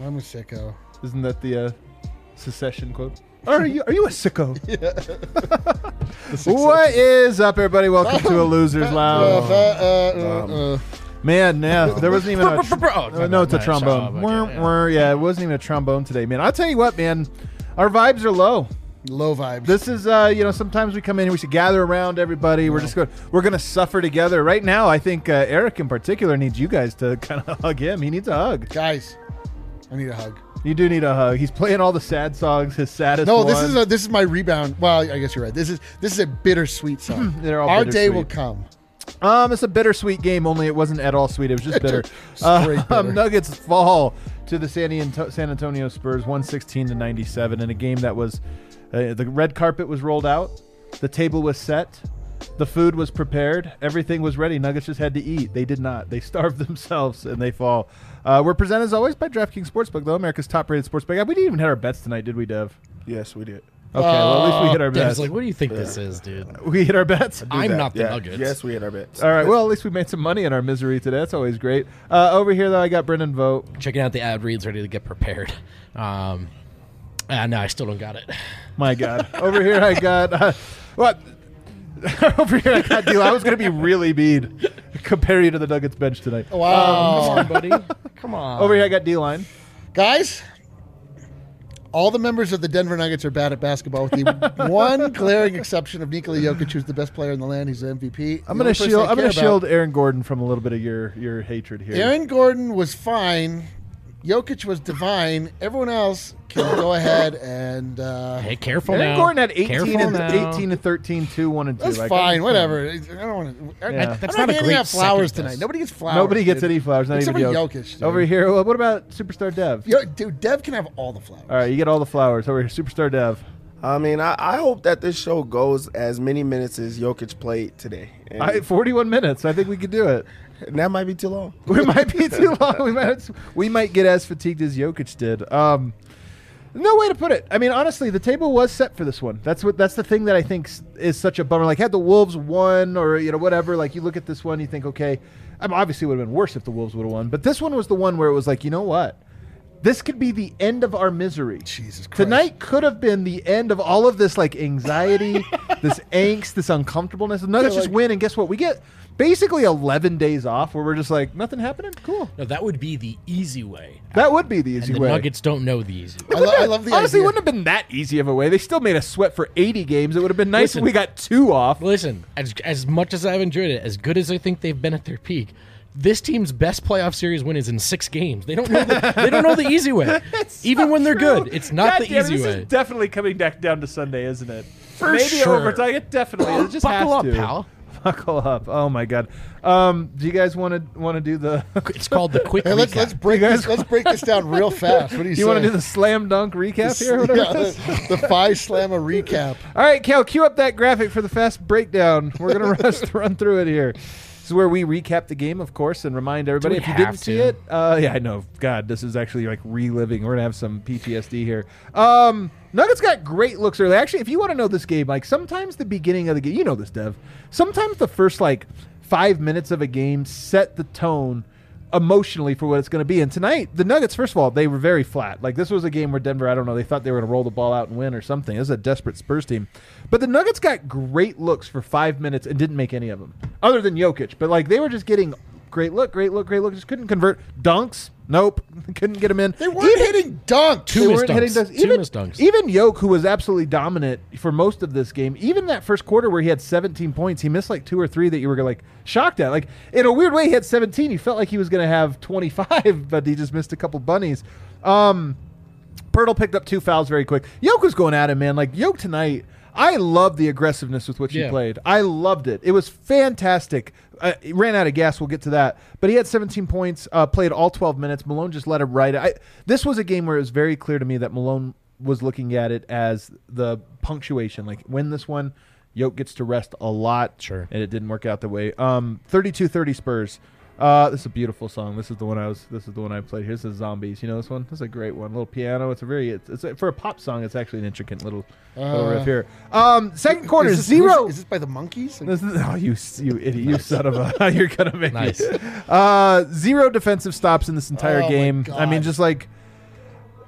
I'm a sicko. Isn't that the secession quote? Are you a sicko? What is up, everybody? Welcome to a Loser's Lounge. Man, yeah, there wasn't even a no, it's a trombone. Yeah, it wasn't even a trombone today, man. I'll tell you what, man, our vibes are low. Low vibes. This is, sometimes we come in and we should gather around everybody. We're going to suffer together. Right now, I think Eric in particular needs you guys to kind of hug him. He needs a hug. Guys, I need a hug. You do need a hug. He's playing all the sad songs, his saddest No, one. this is my rebound. Well, I guess you're right. This is a bittersweet song. They're all Our bittersweet. day will come. It's a bittersweet game, only it wasn't at all sweet. It was just bitter. Straight bitter. Nuggets fall to the San Antonio Spurs 116-97 in a game that was the red carpet was rolled out, the table was set, the food was prepared, everything was ready. Nuggets just had to eat. They did not. They starved themselves and they fall. We're presented as always by DraftKings Sportsbook, though, America's top-rated sportsbook. We didn't even hit our bets tonight, did we, Dev? Yes, we did. Okay, well, at least we hit our Dev's bets. like, what do you think this is, dude? We hit our bets? I'm not the Nuggets. Yes, we hit our bets. All right, well, at least we made some money in our misery today. That's always great. Over here, though, I got Brendan Vogt. Checking out the ad reads, ready to get prepared. No, I still don't got it. My God. Over here, I got... what? Over here, I got D'Lo. I was going to be really mean. Compare you to the Nuggets bench tonight. Wow. Come on, buddy. Come on. Over here, I got D-line. Guys, all the members of the Denver Nuggets are bad at basketball, with the one glaring exception of Nikola Jokic, who's the best player in the land. He's the MVP. I'm going to shield Aaron Gordon from a little bit of your hatred here. Aaron Gordon was fine. Jokic was divine. Everyone else can go ahead and... hey, careful Aaron now. Gordon had 18 Careful and 13, 2, 1, and 2. That's fine. Whatever. I don't want to... Yeah. That's I'm not a handing great out flowers second tonight. best. Nobody gets flowers. Nobody gets dude. any flowers. Not Except even for Jokic. Jokic, dude. Over here, what about Superstar Dev? Dude, Dev can have all the flowers. All right, you get all the flowers. Over here, Superstar Dev. I mean, I hope that this show goes as many minutes as Jokic played today. And 41 minutes. I think we could do it. that might be too long. We might be too long. We might get as fatigued as Jokic did. No way to put it. I mean, honestly, the table was set for this one. That's the thing that I think is such a bummer. Like, had the Wolves won or whatever, like you look at this one, you think, okay, obviously it would have been worse if the Wolves would have won. But this one was the one where it was like, you know what? This could be the end of our misery. Jesus Christ. Tonight could have been the end of all of this like anxiety, this angst, this uncomfortableness. The Nuggets just win, and guess what? We get basically 11 days off where we're just like, nothing happening? Cool. No, that would be the easy way. That would be the easy And the way. Nuggets don't know the easy way. I love the Honestly, idea. it wouldn't have been that easy of a way. They still made us sweat for 80 games. It would have been nice if we got 2 off. Listen, as much as I've enjoyed it, as good as I think they've been at their peak, this team's best playoff series win is in 6 games. They don't know the easy way. Even when they're good, it's not the easy this way. is definitely coming back down to Sunday, isn't it? For Maybe sure. overtime. It definitely. It just Buckle has up, to. pal. Buckle up. Oh my God. Do you guys want to do the? It's called the quick Hey, recap. let's break this down real fast. What do you say? You want to do the slam dunk recap here? Whatever Yeah, it is? the Phi Slamma recap. All right, Cal, cue up that graphic for the fast breakdown. We're gonna run through it here. This is where we recap the game, of course, and remind everybody Do if we you didn't have see to? it. Yeah, I know. God, this is actually like reliving. We're gonna have some PTSD here. Nuggets got great looks early. Actually, if you want to know this game, like sometimes the beginning of the game, you know this, Dev. Sometimes the first like 5 minutes of a game set the tone emotionally for what it's going to be. And tonight, the Nuggets, first of all, they were very flat. Like this was a game where Denver, I don't know, they thought they were going to roll the ball out and win or something. This is a desperate Spurs team. But the Nuggets got great looks for 5 minutes and didn't make any of them, other than Jokic. But like they were just getting great look. Just couldn't convert. Dunks, nope, couldn't get them in. They weren't hitting dunks. They weren't hitting dunks. Two missed dunks. Even Jokic, who was absolutely dominant for most of this game, even that first quarter where he had 17 points, he missed like 2 or 3 that you were like shocked at. Like in a weird way, he had 17. You felt like he was going to have 25, but he just missed a couple bunnies. Pirtle picked up 2 fouls very quick. Jokic was going at him, man. Like Jokic tonight, I loved the aggressiveness with which he played. I loved it. It was fantastic. He ran out of gas. We'll get to that. But he had 17 points, played all 12 minutes. Malone just let him ride. This was a game where it was very clear to me that Malone was looking at it as the punctuation. Like, win this one, Jokic gets to rest a lot. Sure. And it didn't work out the way. 32-30 Spurs. This is a beautiful song. This is the one I played. Here's the Zombies. You know this one? This is a great one. Little piano. It's for a pop song. It's actually an intricate little riff here. Second quarter, Is this, zero. Is this by the Monkees? This is, oh, you idiot! You son of a! You're gonna make Nice. me. 0 defensive stops in this entire Oh, my game. God. I mean, just like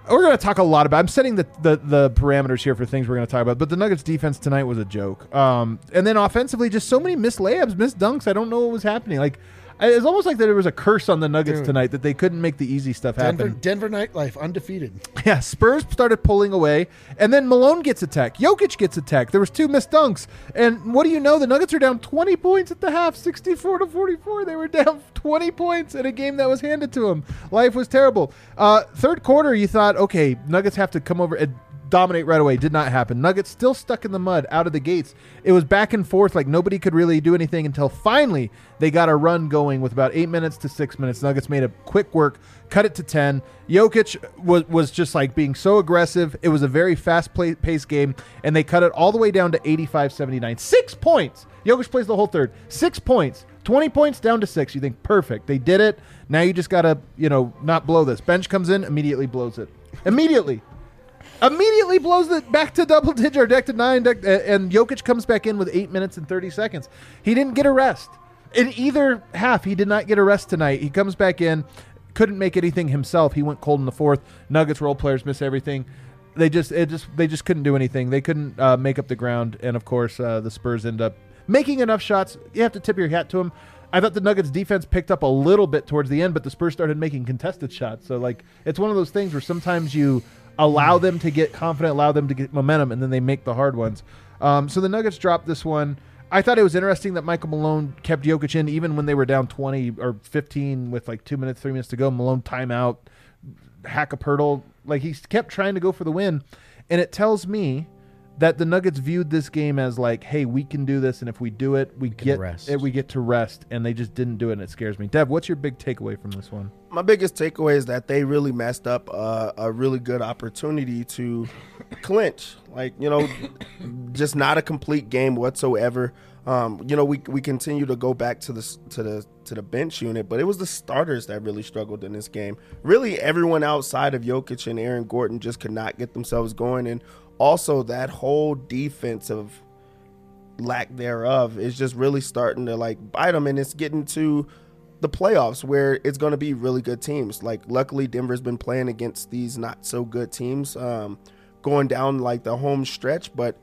we're going to talk a lot about. I'm setting the parameters here for things we're going to talk about. But the Nuggets defense tonight was a joke. And then offensively, just so many missed layups, missed dunks. I don't know what was happening. Like, it's almost like there was a curse on the Nuggets tonight that they couldn't make the easy stuff happen. Denver nightlife, undefeated. Yeah, Spurs started pulling away, and then Malone gets attacked. Jokic gets attacked. There was 2 missed dunks. And what do you know? The Nuggets are down 20 points at the half, 64-44. They were down 20 points in a game that was handed to them. Life was terrible. Third quarter, you thought, okay, Nuggets have to come over and dominate right away. Did not happen. Nuggets still stuck in the mud out of the gates. It was back and forth, like nobody could really do anything until finally they got a run going with about 8 minutes to 6 minutes. Nuggets made a quick work, cut it to 10. Jokic was just like being so aggressive. It was a very fast-paced game, and they cut it all the way down to 85-79. 6 points. Jokic plays the whole third. 6 points. 20 points down to 6. You think, perfect. They did it. Now you just got to, not blow this. Bench comes in, immediately blows it. Immediately blows it back to double digit or deck to 9, and Jokic comes back in with 8 minutes and 30 seconds. He didn't get a rest. In either half, he did not get a rest tonight. He comes back in, couldn't make anything himself. He went cold in the fourth. Nuggets role players miss everything. They just couldn't do anything. They couldn't make up the ground, and of course, the Spurs end up making enough shots. You have to tip your hat to them. I thought the Nuggets defense picked up a little bit towards the end, but the Spurs started making contested shots. So, it's one of those things where sometimes you allow them to get confident, allow them to get momentum, and then they make the hard ones. So the Nuggets dropped this one. I thought it was interesting that Michael Malone kept Jokic in even when they were down 20 or 15 with 2 minutes, 3 minutes to go. Malone timeout, hack a Pirtle. He kept trying to go for the win. And it tells me that the Nuggets viewed this game as hey, we can do this, and if we do it, we get to rest, and they just didn't do it, and it scares me. Dev, what's your big takeaway from this one? My biggest takeaway is that they really messed up a really good opportunity to clinch. Just not a complete game whatsoever. We continue to go back to the bench unit, but it was the starters that really struggled in this game. Really, everyone outside of Jokic and Aaron Gordon just could not get themselves going, and also that whole defensive lack thereof is just really starting to bite them, and it's getting to the playoffs where it's going to be really good teams. Luckily, Denver's been playing against these not so good teams going down the home stretch, but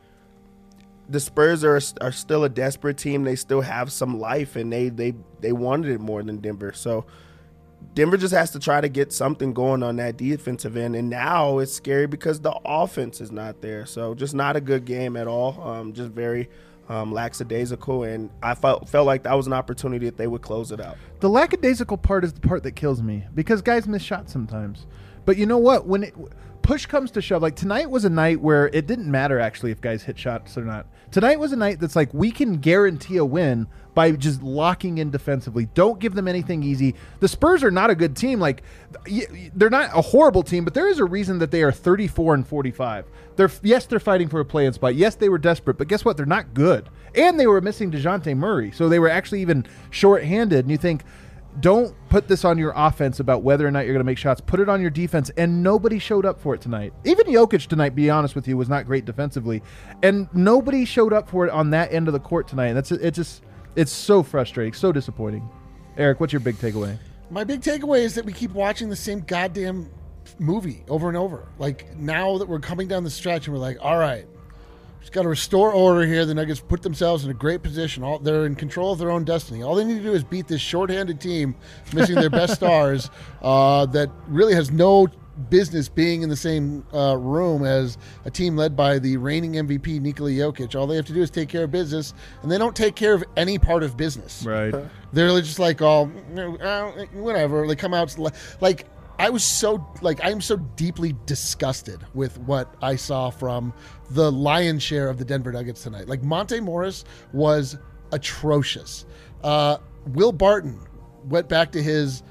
the Spurs are still a desperate team. They still have some life, and they wanted it more than Denver. So Denver just has to try to get something going on that defensive end, and now it's scary because the offense is not there. So just not a good game at all. Just very lackadaisical, and I felt like that was an opportunity that they would close it out. The lackadaisical part is the part that kills me because guys miss shots sometimes. But you know what? When push comes to shove, tonight was a night where it didn't matter actually if guys hit shots or not. Tonight was a night that's we can guarantee a win by just locking in defensively. Don't give them anything easy. The Spurs are not a good team. They're not a horrible team, but there is a reason that they are 34-45. They're fighting for a play-in spot. Yes, they were desperate, but guess what? They're not good. And they were missing DeJounte Murray, so they were actually even short-handed. And you think, don't put this on your offense about whether or not you're going to make shots. Put it on your defense, and nobody showed up for it tonight. Even Jokic tonight, be honest with you, was not great defensively, and nobody showed up for it on that end of the court tonight. And it's so frustrating, so disappointing. Eric, what's your big takeaway? My big takeaway is that we keep watching the same goddamn movie over and over. Now that we're coming down the stretch, and we're all right, just got to restore order here. The Nuggets put themselves in a great position. They're in control of their own destiny. All they need to do is beat this shorthanded team, missing their best stars, that really has no business being in the same room as a team led by the reigning MVP, Nikola Jokic. All they have to do is take care of business, and they don't take care of any part of business. Right. They're just whatever. They come out I'm so deeply disgusted with what I saw from the lion's share of the Denver Nuggets tonight. Monte Morris was atrocious. Will Barton went back to his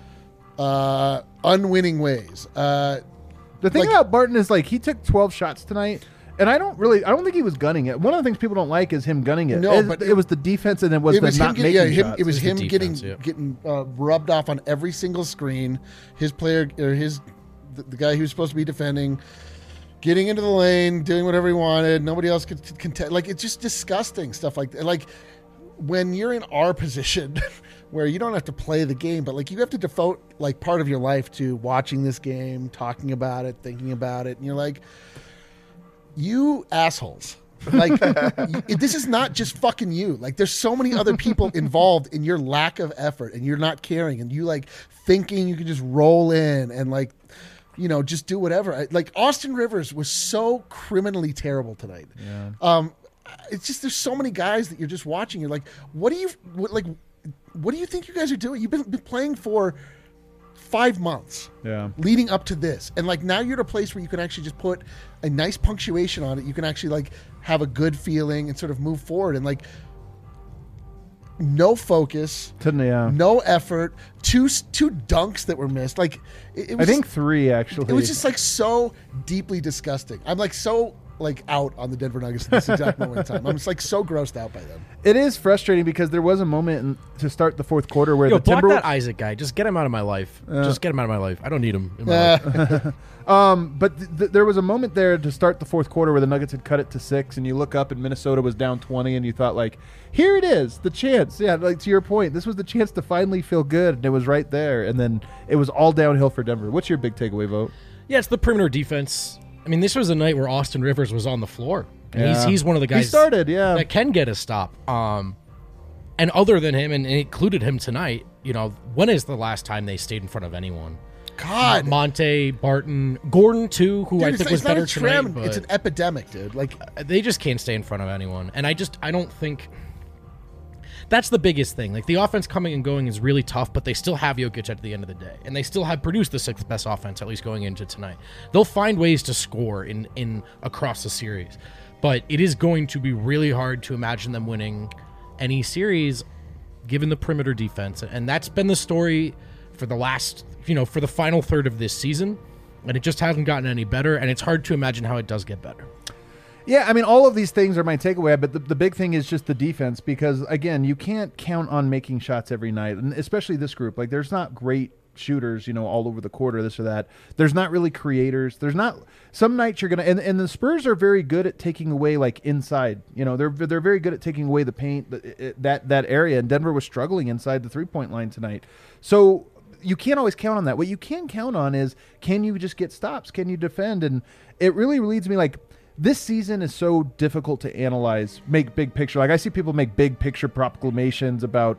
unwinning ways. The thing about Barton is he took 12 shots tonight, and I don't think he was gunning it. One of the things people don't like is him gunning it. No, but it was the defense, and it was not making shots. It was him getting rubbed off on every single screen. His player or the guy he was supposed to be defending, getting into the lane, doing whatever he wanted. Nobody else could contest. It's just disgusting stuff like that. When you're in our position, where you don't have to play the game, but like you have to devote like part of your life to watching this game, talking about it, thinking about it, and you're like, you assholes. Like this is not just fucking you. Like there's so many other people involved in your lack of effort, and you're not caring, and you like thinking you can just roll in and like, just do whatever. Like Austin Rivers was so criminally terrible tonight. Yeah. It's just there's so many guys that you're just watching. You're like, what do you think you guys are doing? You've been playing for 5 months leading up to this, and like now you're at a place where you can actually just put a nice punctuation on it. You can actually like have a good feeling and sort of move forward, and like no focus, no effort, two dunks that were missed. Like it was I think 3 actually. It was just like so deeply disgusting. I'm like so like out on the Denver Nuggets at this exact moment in time. I'm just like so grossed out by them. It is frustrating because there was a moment to start the fourth quarter where the block Timberwolves. that Isaac guy. Just get him out of my life. Just get him out of my life. I don't need him in my life. But there was a moment there to start the fourth quarter where the Nuggets had cut it to 6, and you look up and Minnesota was down 20, and you thought like, here it is, the chance. Yeah, like to your point, this was the chance to finally feel good, and it was right there, and then it was all downhill for Denver. What's your big takeaway vote? Yeah, it's the perimeter defense. I mean, this was a night where Austin Rivers was on the floor. And he's one of the guys he started, that can get a stop. And other than him, and it included him tonight, when is the last time they stayed in front of anyone? God. Monte, Barton, Gordon, too, who I think was better tonight. But it's an epidemic, dude. Like they just can't stay in front of anyone. And I don't think... That's the biggest thing. Like, the offense coming and going is really tough, but they still have Jokic at the end of the day. And they still have produced the 6th best offense, at least going into tonight. They'll find ways to score in across the series. But it is going to be really hard to imagine them winning any series given the perimeter defense. And that's been the story for the last, for the final third of this season. And it just hasn't gotten any better. And it's hard to imagine how it does get better. Yeah, I mean, all of these things are my takeaway, but the big thing is just the defense because, again, you can't count on making shots every night, and especially this group. Like, there's not great shooters, all over the court or this or that. There's not really creators. There's not – some nights you're going to – and the Spurs are very good at taking away, like, inside. They're very good at taking away the paint, that area, and Denver was struggling inside the three-point line tonight. So you can't always count on that. What you can count on is can you just get stops? Can you defend? And it really leads me, like – this season is so difficult to analyze, make big picture. Like I see people make big picture proclamations about,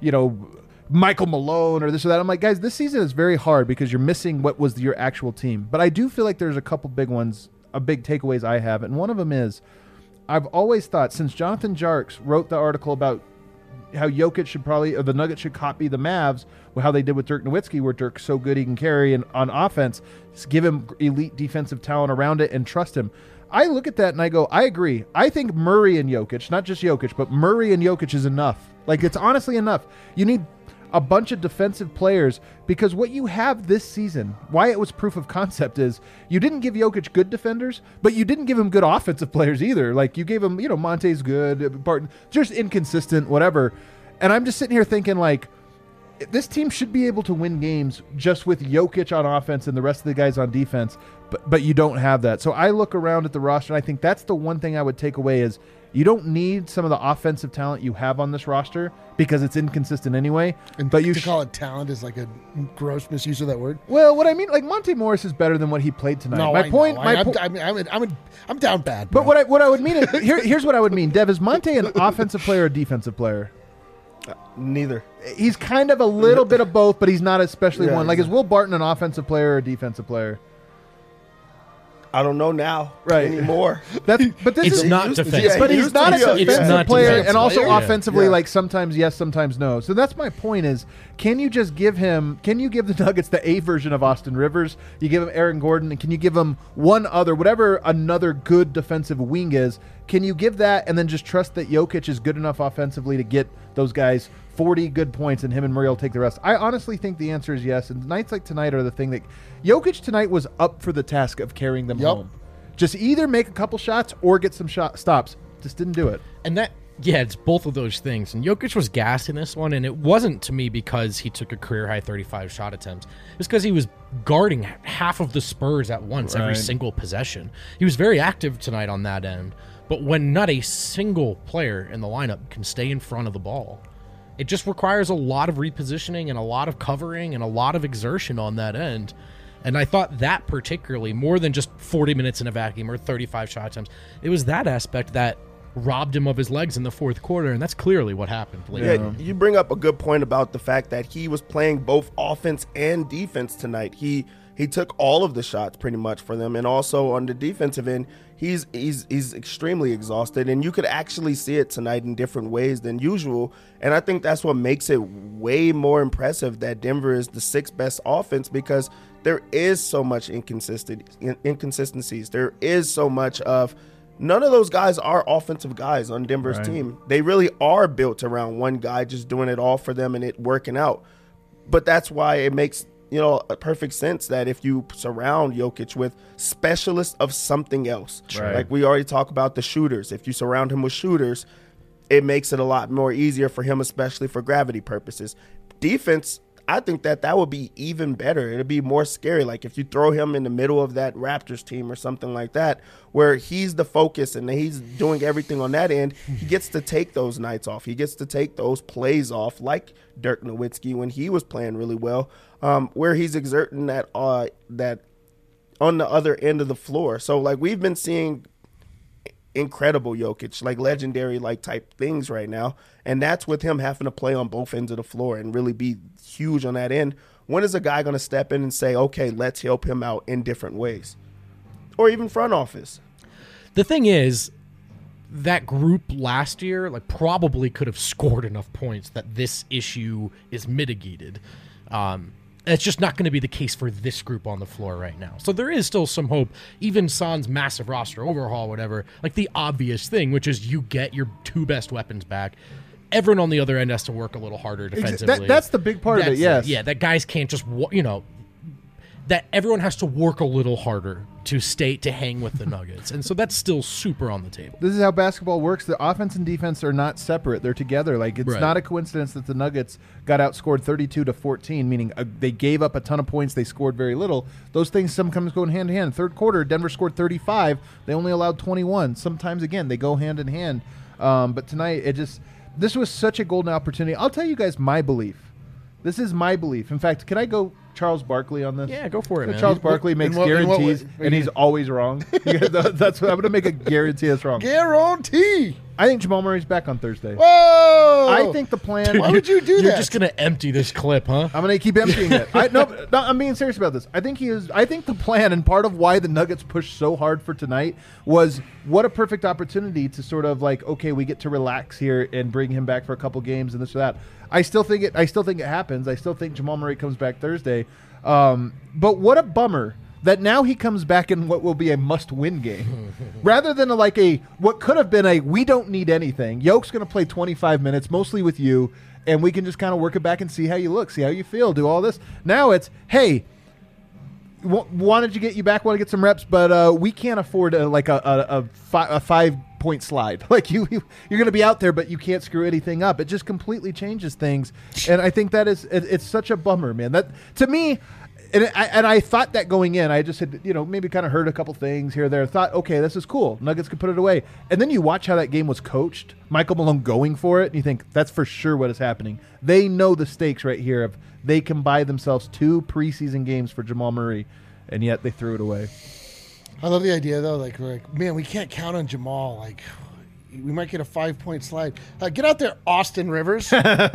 Michael Malone or this or that. I'm like, guys, this season is very hard because you're missing what was your actual team. But I do feel like there's a couple big ones, big takeaways I have. And one of them is I've always thought since Jonathan Jarks wrote the article about how Jokic should or the Nuggets should copy the Mavs, how they did with Dirk Nowitzki, where Dirk's so good he can carry on offense, just give him elite defensive talent around it and trust him. I look at that and I go, I agree. I think Murray and Jokic, not just Jokic, but Murray and Jokic is enough. Like, it's honestly enough. You need a bunch of defensive players because what you have this season, why it was proof of concept is you didn't give Jokic good defenders, but you didn't give him good offensive players either. Like, you gave him, Monte's good, Barton, just inconsistent, whatever. And I'm just sitting here thinking, like, this team should be able to win games just with Jokic on offense and the rest of the guys on defense, but you don't have that. So I look around at the roster, and I think that's the one thing I would take away is you don't need some of the offensive talent you have on this roster because it's inconsistent anyway. And but you call it talent is like a gross misuse of that word. Well, what I mean, like Monte Morris is better than what he played tonight. No, I'm down bad. Bro. But what I would mean is here's what I would mean. Dev, is Monte an offensive player or defensive player? Neither. He's kind of a little bit of both, but he's not especially one. Like, exactly. is Will Barton an offensive player or a defensive player? I don't know now anymore. But this It's is not defensive. But he's not a defensive player, defensive and also player. offensively, Yeah. like sometimes yes, sometimes no. So that's my point: is can you just give him? Can you give the Nuggets the A version of Austin Rivers? You give him Aaron Gordon, and can you give him one other, whatever another good defensive wing is? Can you give that, and then just trust that Jokic is good enough offensively to get those guys 40 good points, and him and Murray will take the rest? I honestly think the answer is yes. And nights like tonight are the thing that Jokic tonight was up for the task of carrying them home. Just either make a couple shots or get some stops. Just didn't do it. And it's both of those things. And Jokic was gassed in this one, and it wasn't to me because he took a career-high 35 shot attempts. It was because he was guarding half of the Spurs at once, every single possession. He was very active tonight on that end. But when not a single player in the lineup can stay in front of the ball, it just requires a lot of repositioning and a lot of covering and a lot of exertion on that end. And I thought that particularly, more than just 40 minutes in a vacuum or 35 shot attempts, it was that aspect that robbed him of his legs in the fourth quarter, and that's clearly what happened later. Yeah, you bring up a good point about the fact that he was playing both offense and defense tonight. He took all of the shots pretty much for them, and also on the defensive end, he's extremely exhausted, and you could actually see it tonight in different ways than usual. And I think that's what makes it way more impressive that Denver is the sixth best offense, because there is so much inconsistencies. There is so much of none of those guys are offensive guys on Denver's team. They really are built around one guy just doing it all for them and it working out. But that's why it makes a perfect sense that if you surround Jokic with specialists of something else, like we already talked about the shooters, if you surround him with shooters, it makes it a lot more easier for him, especially for gravity purposes. Defense, I think that would be even better. It'd be more scary. Like if you throw him in the middle of that Raptors team or something like that, where he's the focus and he's doing everything on that end, he gets to take those nights off. He gets to take those plays off, like Dirk Nowitzki when he was playing really well, where he's exerting that on the other end of the floor. So like we've been seeing incredible Jokic, like legendary like type things right now, and that's with him having to play on both ends of the floor and really be huge on that end. When is a guy going to step in and say, okay, let's help him out in different ways? Or even front office. The thing is, that group last year like probably could have scored enough points that this issue is mitigated. It's just not going to be the case for this group on the floor right now. So there is still some hope. Even Son's massive roster overhaul, whatever, like the obvious thing, which is you get your two best weapons back. Everyone on the other end has to work a little harder defensively. That's the big part of it, yes. Yeah, that guys can't just, that everyone has to work a little harder to hang with the Nuggets. And so that's still super on the table. This is how basketball works. The offense and defense are not separate. They're together. Like it's not a coincidence that the Nuggets got outscored 32-14, meaning they gave up a ton of points. They scored very little. Those things sometimes go hand in hand. Third quarter, Denver scored 35. They only allowed 21. Sometimes, again, they go hand in hand. But tonight, this was such a golden opportunity. I'll tell you guys my belief. This is my belief. In fact, can I go Charles Barkley on this? Yeah, go for it, man. Charles Barkley makes guarantees, and he's always wrong. That's what I'm going to make a guarantee that's wrong. Guarantee. I think Jamal Murray's back on Thursday. Whoa! I think the plan. Why would you do that? You're just going to empty this clip, huh? I'm going to keep emptying it. No, I'm being serious about this. I think the plan, and part of why the Nuggets pushed so hard for tonight was what a perfect opportunity to sort of like, okay, we get to relax here and bring him back for a couple games and this or that. I still think it happens. I still think Jamal Murray comes back Thursday. But what a bummer that now he comes back in what will be a must-win game, rather than what could have been a we don't need anything. Yoke's going to play 25 minutes, mostly with you, and we can just kind of work it back and see how you look, see how you feel, do all this. Now it's, hey, wanted to get you back, want to get some reps, but we can't afford a 5-point slide. Like you're going to be out there, but you can't screw anything up. It just completely changes things, and I think that is it's such a bummer, man. That to me. And I thought that going in, I just had, maybe kind of heard a couple things here or there. Thought, okay, this is cool. Nuggets could put it away. And then you watch how that game was coached. Michael Malone going for it, and you think, that's for sure what is happening. They know the stakes right here of they can buy themselves 2 preseason games for Jamal Murray, and yet they threw it away. I love the idea, though. Like, we're like, man, we can't count on Jamal. Like, we might get a 5-point slide. Get out there, Austin Rivers.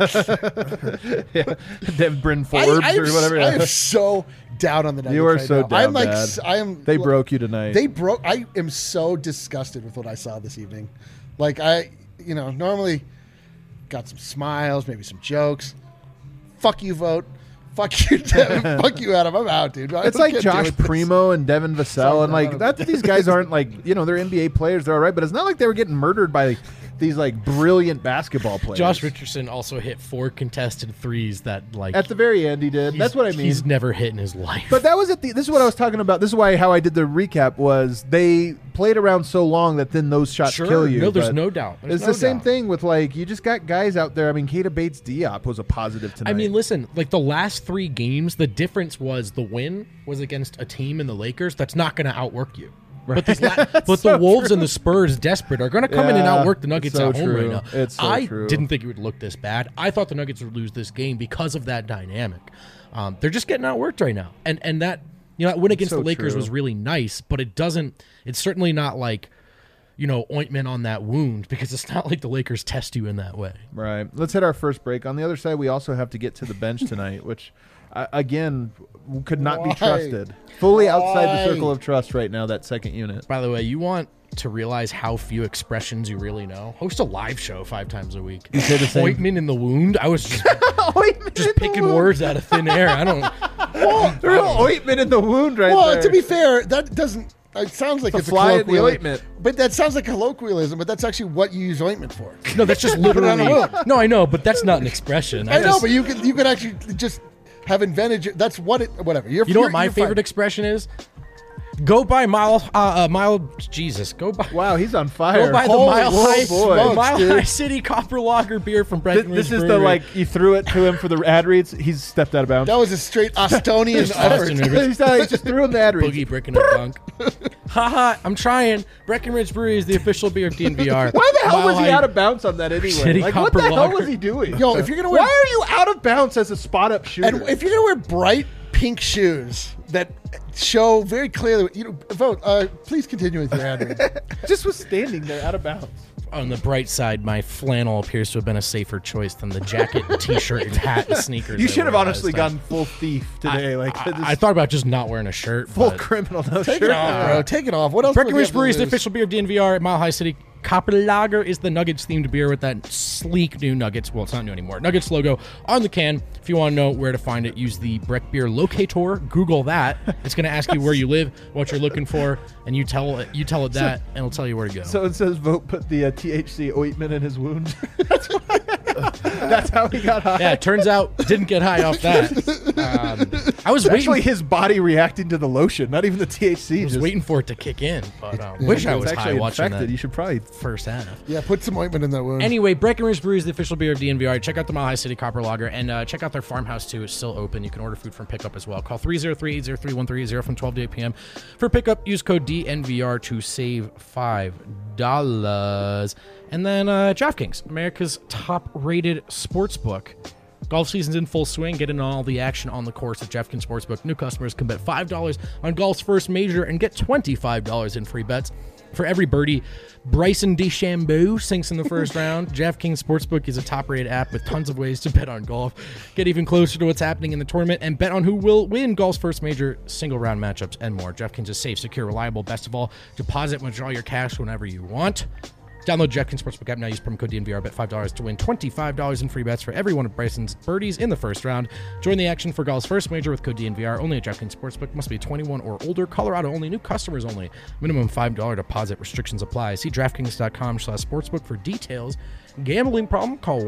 Bryn Forbes or whatever. I am so down on the Nuggets. You are right so now. down. I'm like, bad. They broke you tonight. I am so disgusted with what I saw this evening. Like normally got some smiles, maybe some jokes. Fuck you, vote. Fuck you, Devin. Fuck you, Adam. I'm out, dude. It's like Josh Primo and Devin Vassell, and like that. These guys aren't like they're NBA players. They're all right, but it's not like they were getting murdered by these like brilliant basketball players. Josh Richardson also hit 4 contested threes that like at the very end he did. That's what I mean. He's never hit in his life. But that was this is what I was talking about. This is how I did the recap was they played around so long that then those shots kill you. No, there's no doubt. It's the same thing with like you just got guys out there. I mean, Keita Bates-Diop was a positive tonight. I mean, listen, like the last 3 games, the difference was the win was against a team in the Lakers that's not going to outwork you. But the Wolves and the Spurs, desperate, are going to come in and Yeah, outwork the Nuggets it's so at home true. right now. It's so I true. didn't think it would look this bad. I thought the Nuggets would lose this game because of that dynamic. They're just getting outworked right now, and that that win against so the Lakers true. was really nice, but it doesn't. It's certainly not like ointment on that wound, because it's not like the Lakers test you in that way. Right. Let's hit our first break. On the other side, we also have to get to the bench tonight, which, again, could not be Why? trusted. Fully outside the Why? circle of trust right now, that second unit. By the way, you want to realize how few expressions you really know? Host a live show 5 times a week. You say the same. Ointment in the wound? I was just picking words out of thin air. I don't. Real ointment in the wound right Well, there. to be fair, that doesn't. It sounds like It's a it's a fly in the colloquialism. ointment. But that sounds like colloquialism. But that's actually what you use ointment for. No, that's just Put it on literally. a wound. No, I know, but that's not an expression. I know, just- but you could actually just have invented. That's what it. Whatever. You know what my favorite expression is? Go by Jesus. Go by. Wow, he's on fire. Go by the Holy Mile High, smokes, Mile dude. High City Copper Lager beer from Breckenridge. This is the, Brewery. like, you threw it to him for the ad reads. He's stepped out of bounds. That was a straight Austonian effort. Austin Rivers. He just threw him the ad reads. Boogie brick in a dunk. Haha, I'm trying. Breckenridge Brewery is the official beer of DNVR. Why the hell Mile was he High- out of bounds on that anyway? Shitty Like, what the copper hell lager. was he doing? Yo, if you're gonna wear, Why are you out of bounds as a spot-up shooter? and if you're gonna wear bright pink shoes that show very clearly, vote. Please continue with your ad read. just was standing there out of bounds. On the bright side, my flannel appears to have been a safer choice than the jacket, t-shirt, and hat and sneakers. You I should have wore honestly last time. gone full thief today. I thought about just not wearing a shirt. full but criminal. No Take shirt. it off, bro. Take it off. What else? Breckenridge Brewery is the lose? official beer of DNVR at Mile High City. Copper Lager is the Nuggets themed beer with that sleek new Nuggets. Well, it's not new anymore. Nuggets logo on the can. If you want to know where to find it, use the Breck Beer Locator. Google that. It's going to ask you where you live, what you're looking for, and you tell it that, and it'll tell you where to go. So it says vote put the THC ointment in his wound. That's how he got high. Yeah, it turns out didn't get high off that. I was Actually, waiting. his body reacting to the lotion, not even the THC. I was just waiting for it to kick in, but wish I it's was high actually watching infected. that You should probably. first half. Yeah, put some ointment in that wound. Anyway, Breckenridge Brewery is the official beer of DNVR. Check out the Mile High City Copper Lager, and check out their farmhouse too. It's still open. You can order food from pickup as well. Call 303-803-1330 from 12 to 8 p.m. For pickup, use code DNVR to save $5. And then DraftKings, America's top-rated sportsbook. Golf season's in full swing. Get in on all the action on the course at DraftKings Sportsbook. New customers can bet $5 on golf's first major and get $25 in free bets. For every birdie, Bryson DeChambeau sinks in the first round. DraftKings Sportsbook is a top-rated app with tons of ways to bet on golf. Get even closer to what's happening in the tournament and bet on who will win golf's first major, single-round matchups, and more. DraftKings is safe, secure, reliable. Best of all, deposit and withdraw your cash whenever you want. Download DraftKings Sportsbook app now. Use promo code DNVR. Bet $5 to win $25 in free bets for every one of Bryson's birdies in the first round. Join the action for golf's first major with code DNVR. Only at DraftKings Sportsbook. Must be 21 or older. Colorado only. New customers only. Minimum $5 deposit. Restrictions apply. See DraftKings.com/sportsbook for details. Gambling problem? Call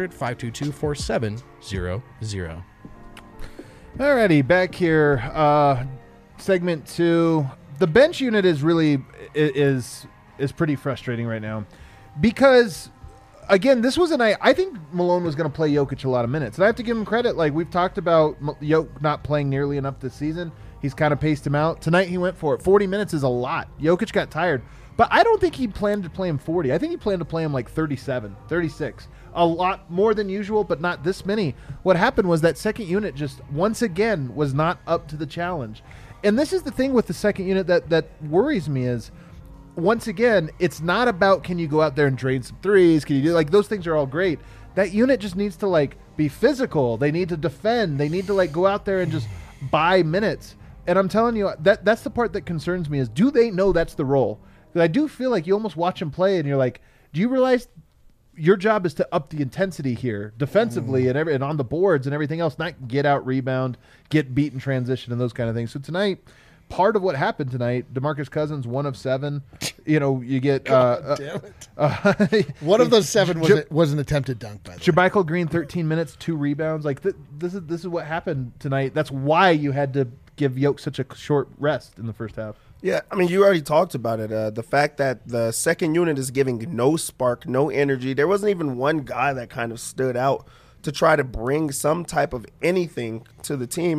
1-800-522-4700. Alrighty, back here. Segment 2. The bench unit is really is pretty frustrating right now because, again, this was a night. I think Malone was going to play Jokic a lot of minutes, and I have to give him credit. Like we've talked about, Jokic not playing nearly enough this season. He's kind of paced him out. Tonight he went for it. 40 minutes is a lot. Jokic got tired, but I don't think he planned to play him 40. I think he planned to play him like 37, 36. A lot more than usual, but not this many. What happened was that second unit just once again was not up to the challenge. And this is the thing with the second unit that worries me is, once again, it's not about can you go out there and drain some threes, can you do, like, those things are all great. That unit just needs to, like, be physical. They need to defend. They need to, like, go out there and just buy minutes. And I'm telling you, that's the part that concerns me is, do they know that's the role? Because I do feel like you almost watch them play and you're like, do you realize your job is to up the intensity here defensively and on the boards and everything else, not get out, rebound, get beat in transition and those kind of things. So tonight, part of what happened tonight, DeMarcus Cousins, 1 of 7. You get Damn it. One of those 7 was an attempted dunk, by the way. Jermichael Green, 13 minutes, 2 rebounds. Like this is what happened tonight. That's why you had to give Yoke such a short rest in the first half. Yeah, I mean, you already talked about it. The fact that the second unit is giving no spark, no energy. There wasn't even one guy that kind of stood out to try to bring some type of anything to the team.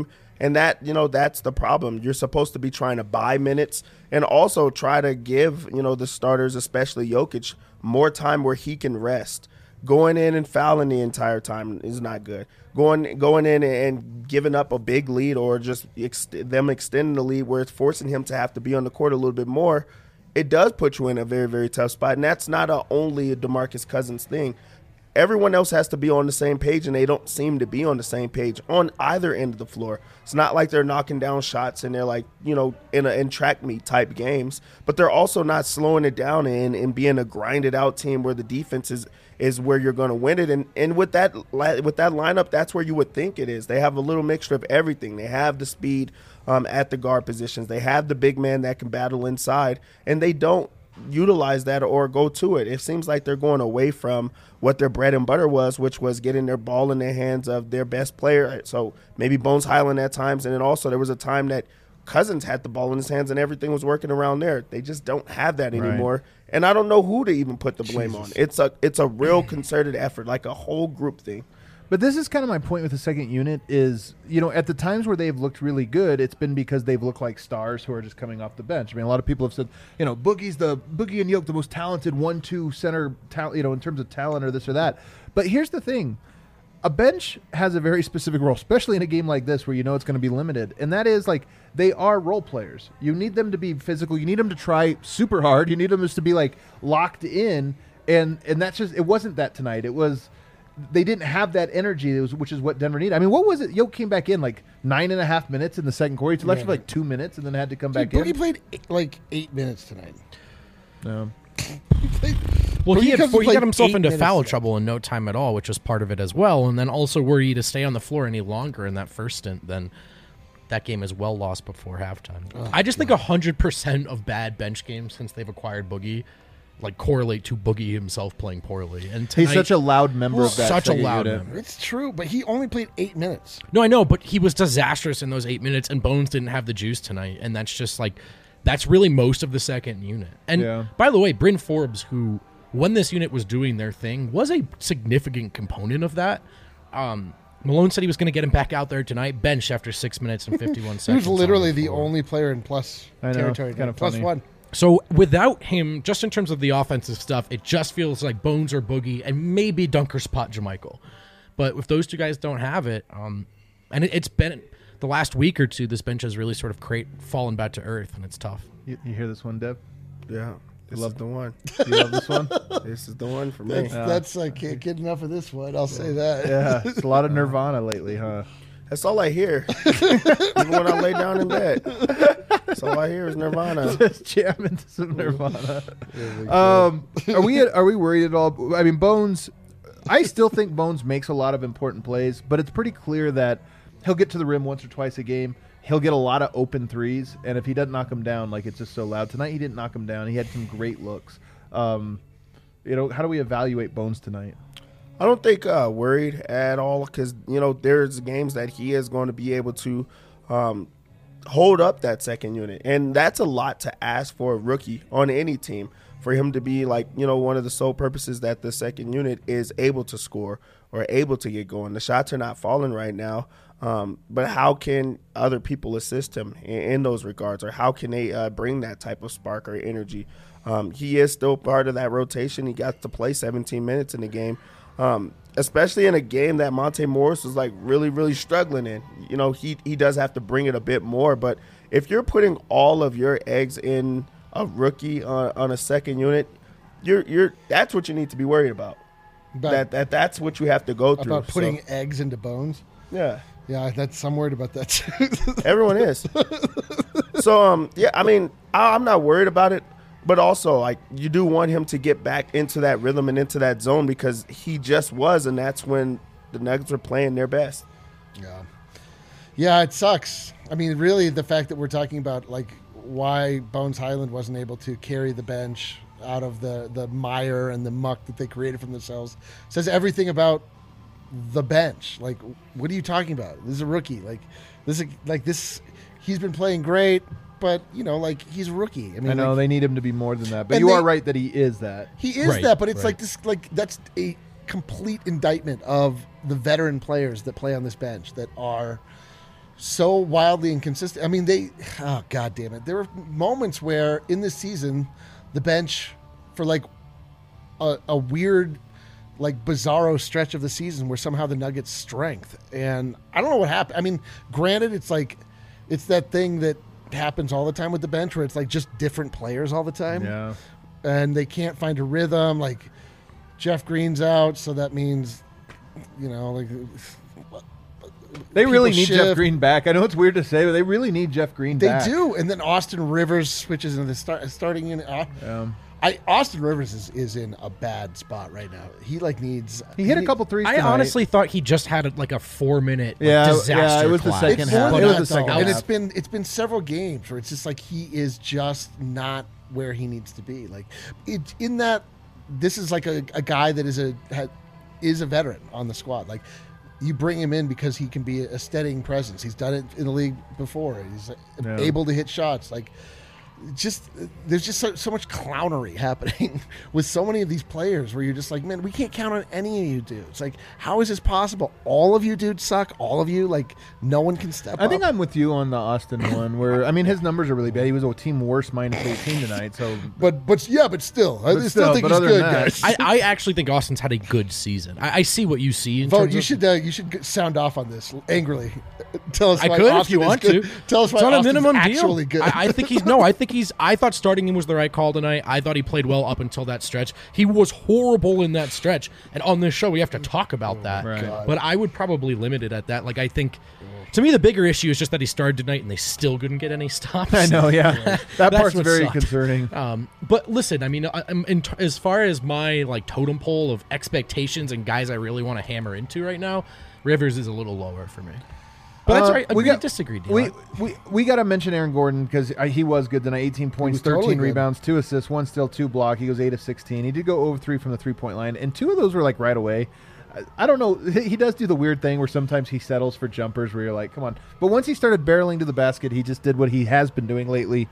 And that, that's the problem. You're supposed to be trying to buy minutes and also try to give, the starters, especially Jokic, more time where he can rest. Going in and fouling the entire time is not good. Going in and giving up a big lead or just them extending the lead where it's forcing him to have to be on the court a little bit more, it does put you in a very, very tough spot. And that's not only a DeMarcus Cousins thing. Everyone else has to be on the same page, and they don't seem to be on the same page on either end of the floor. It's not like they're knocking down shots and they're like, in track meet type games, but they're also not slowing it down and being a grinded out team where the defense is where you're going to win it. And with that lineup, that's where you would think it is. They have a little mixture of everything. They have the speed at the guard positions. They have the big man that can battle inside, and they don't utilize that or go to it. It seems like they're going away from what their bread and butter was, which was getting their ball in the hands of their best player. So maybe Bones Highland at times, and then also there was a time that Cousins had the ball in his hands and everything was working around there. They just don't have that anymore. Right. And I don't know who to even put the blame on. It's a real concerted effort, like a whole group thing. But this is kind of my point with the second unit is, at the times where they've looked really good, it's been because they've looked like stars who are just coming off the bench. I mean, a lot of people have said, Boogie and Yoke, the most talented 1-2 center, in terms of talent or this or that. But here's the thing. A bench has a very specific role, especially in a game like this where it's going to be limited. And that is they are role players. You need them to be physical. You need them to try super hard. You need them just to be locked in. And that's just, it wasn't that tonight. It was, they didn't have that energy, which is what Denver needed. I mean, what was it? Yoke came back in 9.5 minutes in the second quarter. He left for 2 minutes and then had to come back in. He played 8 minutes tonight. No. Well, he got himself into foul trouble in no time at all, which was part of it as well. And then also, were he to stay on the floor any longer in that first stint, then that game is well lost before halftime. I just think 100% of bad bench games since they've acquired Boogie correlate to Boogie himself playing poorly. And tonight, he's such a loud member of that. Such a loud member. It's true, but he only played 8 minutes. No, I know, but he was disastrous in those 8 minutes, and Bones didn't have the juice tonight, and that's just that's really most of the second unit. And by the way, Bryn Forbes, who when this unit was doing their thing, was a significant component of that. Malone said he was going to get him back out there tonight, bench after 6 minutes and 51 seconds. He was literally the only player in plus territory. Kind of plus funny. one. So without him, just in terms of the offensive stuff, it just feels like Bones or Boogie and maybe Dunker Spot JaMychal. But if those two guys don't have it, and it's been the last week or two, this bench has really sort of fallen back to earth, and it's tough. You hear this one, Deb? Yeah. This is the one. You love this one? This is the one for me. That's I can't get enough of this one. I'll say that. Yeah, it's a lot of Nirvana lately, huh? That's all I hear. Even when I lay down in bed. That's all I hear is Nirvana. Just jamming to some Nirvana. Are we worried at all? I mean, Bones, I still think Bones makes a lot of important plays, but it's pretty clear that he'll get to the rim once or twice a game. He'll get a lot of open threes, and if he doesn't knock them down, it's just so loud. Tonight he didn't knock them down. He had some great looks. How do we evaluate Bones tonight? I don't think worried at all because, there's games that he is going to be able to hold up that second unit. And that's a lot to ask for a rookie on any team, for him to be one of the sole purposes that the second unit is able to score or able to get going. The shots are not falling right now. But how can other people assist him in those regards, or how can they bring that type of spark or energy? He is still part of that rotation. He got to play 17 minutes in the game, especially in a game that Monte Morris was really, really struggling in. He does have to bring it a bit more. But if you're putting all of your eggs in a rookie on a second unit, that's what you need to be worried about. That's what you have to go through. About putting eggs into Bones. Yeah. Yeah, I'm worried about that too. Everyone is. So, I mean, I'm not worried about it, but also, you do want him to get back into that rhythm and into that zone because he just was, and that's when the Nuggets were playing their best. Yeah. Yeah, it sucks. I mean, really, the fact that we're talking about, why Bones Highland wasn't able to carry the bench out of the mire and the muck that they created for themselves says everything about the bench. What are you talking about? This is a rookie. This he's been playing great, but he's a rookie. I mean, I know they need him to be more than that, but you are right that he is that. He is that, but it's that's a complete indictment of the veteran players that play on this bench that are so wildly inconsistent. I mean, oh god damn it. There were moments where in this season, the bench for like a weird, like bizarro stretch of the season where somehow the Nuggets' strength, and I don't know what happened. I mean, granted, it's that thing that happens all the time with the bench where it's like just different players all the time. Yeah. And they can't find a rhythm. Like Jeff Green's out, so that means, like they really need shift. Jeff Green back. I know it's weird to say, but they really need Jeff Green back. They do. And then Austin Rivers switches into the starting in. Austin Rivers is in a bad spot right now. He needs. He hit a couple threes. I tonight. honestly thought he just had a 4-minute disaster. Yeah, it was the collapse. second half. It was the second and half. it's been several games where it's just like he is just not where he needs to be. Like this is like a guy that is a veteran on the squad. Like you bring him in because he can be a steadying presence. He's done it in the league before. He's able to hit shots. Like there's just so much clownery happening with so many of these players where you're just like, man, we can't count on any of you dudes. Like, how is this possible? All of you dudes suck. All of you, like, no one can step up. I think I'm with you on the Austin one where, I mean, his numbers are really bad. He was a team worst -18 tonight. So, but still, I still think he's other good, than that, guys. I actually think Austin's had a good season. I see what you see. Vote. You should sound off on this angrily. Tell us. I why could Austin if you is want good. to. Tell us why it's on a Austin's minimum actually deal. good. I think he's no. I thought starting him was the right call tonight. I thought he played well up until that stretch. He was horrible in that stretch, and on this show we have to talk about that. Right. But I would probably limit it at that. Like I think, to me, the bigger issue is just that he started tonight and they still couldn't get any stops. I know, yeah. That part's what very sucked. concerning. But listen, I mean, as far as my totem pole of expectations and guys I really want to hammer into right now, Rivers is a little lower for me. But that's right. We disagreed. We got to mention Aaron Gordon because he was good tonight. 18 points, 13 totally rebounds, 2 assists, 1 steal, 2 block. He goes 8 of 16. He did go over 3 from the 3-point line, and 2 of those were right away. I don't know. He does do the weird thing where sometimes he settles for jumpers where you're like, come on. But once he started barreling to the basket, he just did what he has been doing lately.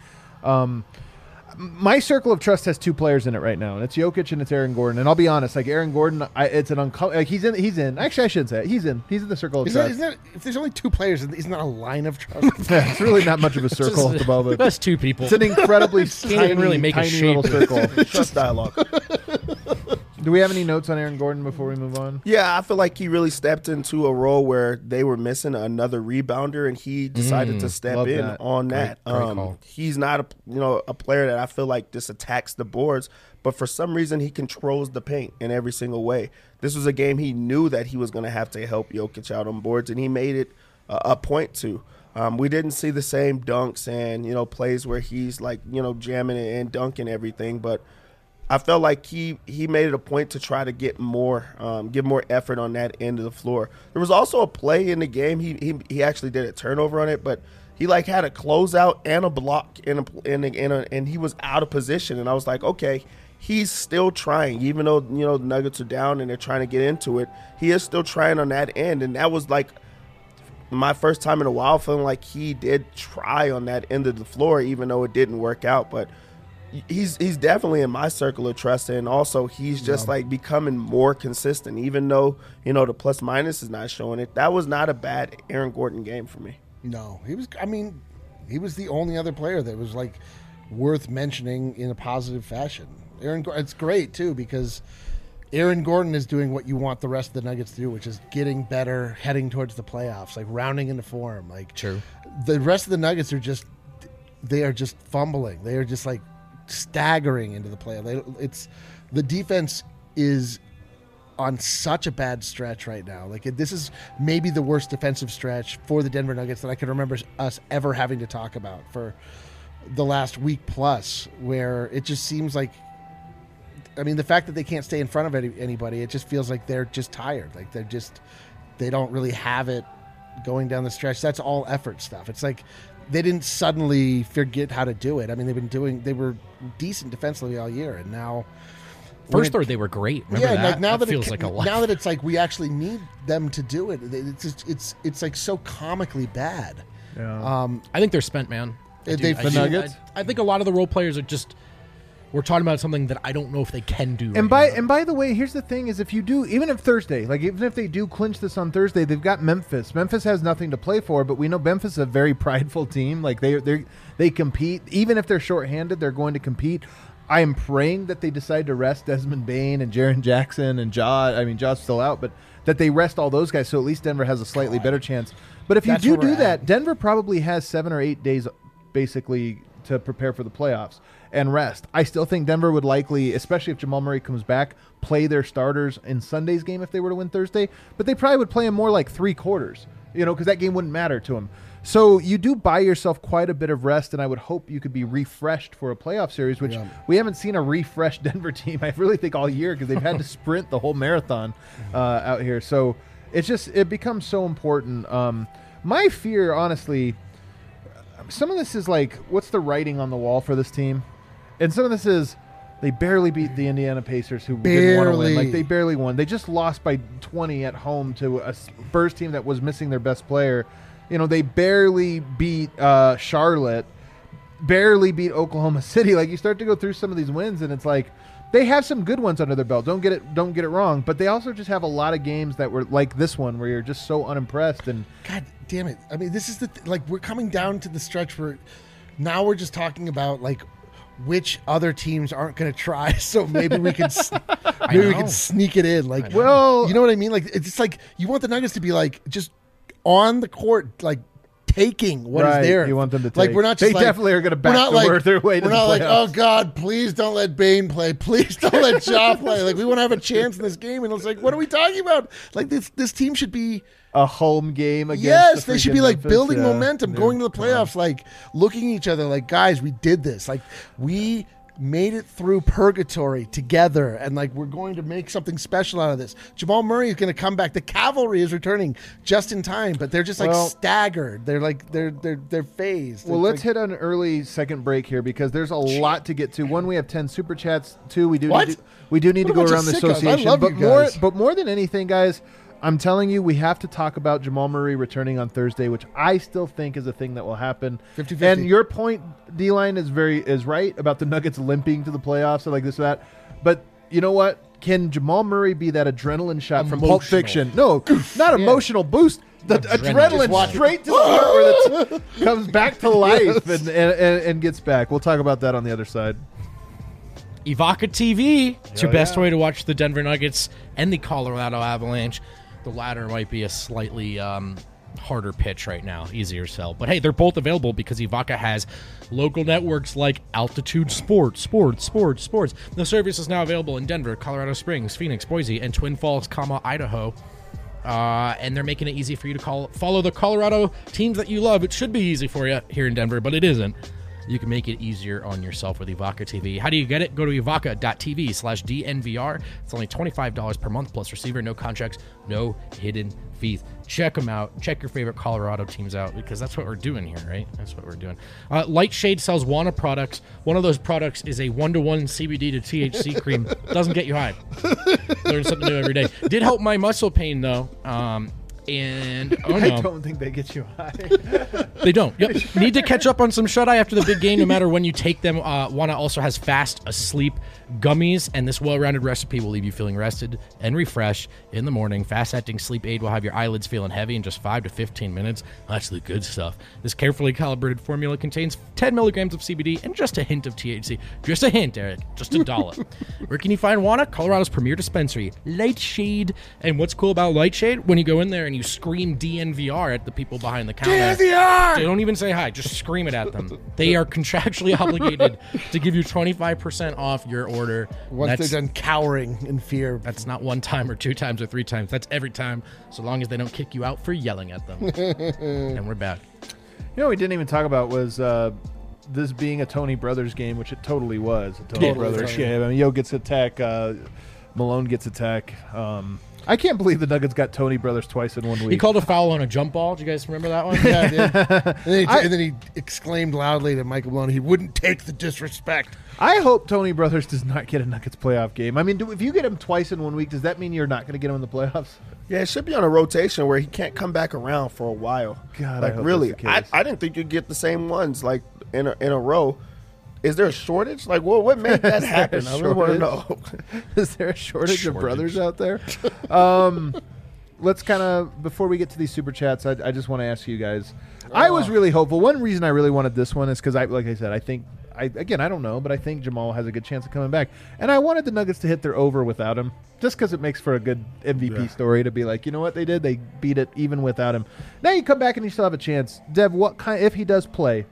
My circle of trust has 2 players in it right now, and it's Jokic and it's Aaron Gordon. And I'll be honest, Aaron Gordon, it's an he's in. Actually, I shouldn't say it. He's in the circle of trust. If there's only 2 players, isn't that a line of trust? It's really not much of a circle at the moment. That's 2 people. It's an incredibly Can't even really make a tiny shape. little circle. Trust dialogue. Do we have any notes on Aaron Gordon before we move on? Yeah, I feel like he really stepped into a role where they were missing another rebounder, and he decided to step love in that. on that. Great call. He's not a player that I feel like just attacks the boards, but for some reason he controls the paint in every single way. This was a game he knew that he was going to have to help Jokic out on boards, and he made it a point to. We didn't see the same dunks and plays where he's jamming and dunking everything, but I felt like he made it a point to try to get more effort on that end of the floor. There was also a play in the game. He actually did a turnover on it, but he had a closeout and a block and he was out of position. And I was like, okay, he's still trying, even though the Nuggets are down and they're trying to get into it. He is still trying on that end, and that was my first time in a while feeling like he did try on that end of the floor, even though it didn't work out, but. He's definitely in my circle of trust, and also he's just becoming more consistent, even though the plus minus is not showing it. That was not a bad Aaron Gordon game for me. No, he was. I mean, he was the only other player that was worth mentioning in a positive fashion. It's great too because Aaron Gordon is doing what you want the rest of the Nuggets to do, which is getting better, heading towards the playoffs, rounding into form. True. The rest of the Nuggets are just fumbling. They are just staggering into the playoff. The defense is on such a bad stretch right now. This is maybe the worst defensive stretch for the Denver Nuggets that I can remember us ever having to talk about for the last week plus, where it just seems like, I mean, the fact that they can't stay in front of anybody, it just feels like they're just tired. They don't really have it going down the stretch. That's all effort stuff. It's they didn't suddenly forget how to do it. I mean, they were decent defensively all year, and now First third they were great. Remember that? Now that that feels like a lot. Now that it's we actually need them to do it. It's so comically bad. Yeah. I think they're spent, man. The Nuggets? I think a lot of the role players are just we're talking about something that I don't know if they can do. And right now. by the way, here's the thing: is if you do, even if they do clinch this on Thursday, they've got Memphis. Memphis has nothing to play for, but we know Memphis is a very prideful team. Like they compete, even if they're shorthanded, they're going to compete. I am praying that they decide to rest Desmond Bain and Jaren Jackson and Jaw. I mean, Jaw's still out, but that they rest all those guys, so at least Denver has a slightly better chance. But if you That's where do we're that, at. Denver probably has 7 or 8 days basically to prepare for the playoffs and rest. I still think Denver would likely, especially if Jamal Murray comes back, play their starters in Sunday's game if they were to win Thursday, but they probably would play him more like 3 quarters, because that game wouldn't matter to him. So you do buy yourself quite a bit of rest, and I would hope you could be refreshed for a playoff series, which we haven't seen a refreshed Denver team, I really think, all year, because they've had to sprint the whole marathon out here. So it becomes so important. My fear, honestly, some of this is like, what's the writing on the wall for this team? And some of this is they barely beat the Indiana Pacers, who didn't want to win. Like, they barely won. They just lost by 20 at home to a Spurs team that was missing their best player. They barely beat Charlotte, barely beat Oklahoma City. Like, you start to go through some of these wins, and it's like they have some good ones under their belt. Don't get it wrong. But they also just have a lot of games that were like this one, where you're just so unimpressed. And God damn it! I mean, this is we're coming down to the stretch where now we're just talking about like which other teams aren't going to try. So maybe we can we can sneak it in. Like, well, you know what I mean? Like, it's just like you want the Nuggets to be like just on the court, like taking what is there. You want them to take. Like, we're not just they definitely are going to back their way to we're the not like, playoffs. oh God, please don't let Bane play. Please don't let Ja play. Like, we want to have a chance in this game. And it's like, what are we talking about? Like, this team should be a home game against yes, the they should freaking be like Memphis. building Yeah. momentum, going to the playoffs, like looking at each other like, guys, we did this. Like, we made it through purgatory together, and like we're going to make something special out of this. Jamal Murray is going to come back. The cavalry is returning just in time, but they're just like staggered. They're like they're phased. Well, It's let's like, hit an early second break here because there's a lot to get to. One, we have 10 super chats. Two, we do What? need to What a go bunch around of the sickos. I association. love But you guys. more than anything, guys, I'm telling you, we have to talk about Jamal Murray returning on Thursday, which I still think is a thing that will happen. 50-50. And your point, D-Line, is right about the Nuggets limping to the playoffs or like this or that. But you know what? Can Jamal Murray be that adrenaline shot from Pulp Emotional. Fiction? No, not emotional boost. The adrenaline straight to the heart where it comes back to life and gets back. We'll talk about that on the other side. Evoca TV. It's your Hell best yeah. way to watch the Denver Nuggets and the Colorado Avalanche. The latter might be a slightly harder pitch right now, easier sell. But hey, they're both available because Evoca has local networks like Altitude Sports. The service is now available in Denver, Colorado Springs, Phoenix, Boise, and Twin Falls, Idaho. And they're making it easy for you to follow the Colorado teams that you love. It should be easy for you here in Denver, but it isn't. You can make it easier on yourself with Evoca TV. How do you get it? Go to evoca.tv/DNVR. It's only $25 per month plus receiver, no contracts, no hidden fees. Check them out. Check your favorite Colorado teams out because that's what we're doing here, right? That's what we're doing. Lightshade sells Wana products. One of those products is a 1-to-1 CBD to THC cream. Doesn't get you high. Learn something new every day. Did help my muscle pain, though. And I don't think they get you high. They don't. Yep. Need to catch up on some shut-eye after the big game, no matter when you take them. Wana also has fast asleep gummies, and this well-rounded recipe will leave you feeling rested and refreshed in the morning. Fast-acting sleep aid will have your eyelids feeling heavy in just 5 to 15 minutes. That's the good stuff. This carefully calibrated formula contains 10 milligrams of CBD and just a hint of THC. Just a hint, Eric. Just a dollop. Where can you find Wana? Colorado's premier dispensary, Lightshade. And what's cool about Lightshade? When you go in there and you scream DNVR at the people behind the counter. DNVR! They don't even say hi. Just scream it at them. They are contractually obligated to give you 25% off your order. once they're done cowering in fear. That's not 1 time or 2 times or 3 times. That's every time, so long as they don't kick you out for yelling at them. And we're back. You know what we didn't even talk about was this being a Tony Brothers game, which it totally was. A Tony Brothers game. I mean, Yo gets attack, Malone gets attack. I can't believe the Nuggets got Tony Brothers twice in 1 week. He called a foul on a jump ball. Do you guys remember that one? Yeah, I did. And then he exclaimed loudly to Michael Malone, he wouldn't take the disrespect. I hope Tony Brothers does not get a Nuggets playoff game. I mean, if you get him twice in 1 week, does that mean you're not going to get him in the playoffs? Yeah, it should be on a rotation where he can't come back around for a while. God, like I hope really, that's the case. I didn't think you'd get the same ones like in a row. Is there a shortage? Like, what made that happen? I really want to know. Is there a shortage of brothers out there? Let's kind of, before we get to these super chats, I just want to ask you guys. I was really hopeful. One reason I really wanted this one is because, like I said, I don't know, but I think Jamal has a good chance of coming back. And I wanted the Nuggets to hit their over without him, just because it makes for a good MVP story to be like, you know what they did? They beat it even without him. Now you come back and you still have a chance. Dev, if he does play,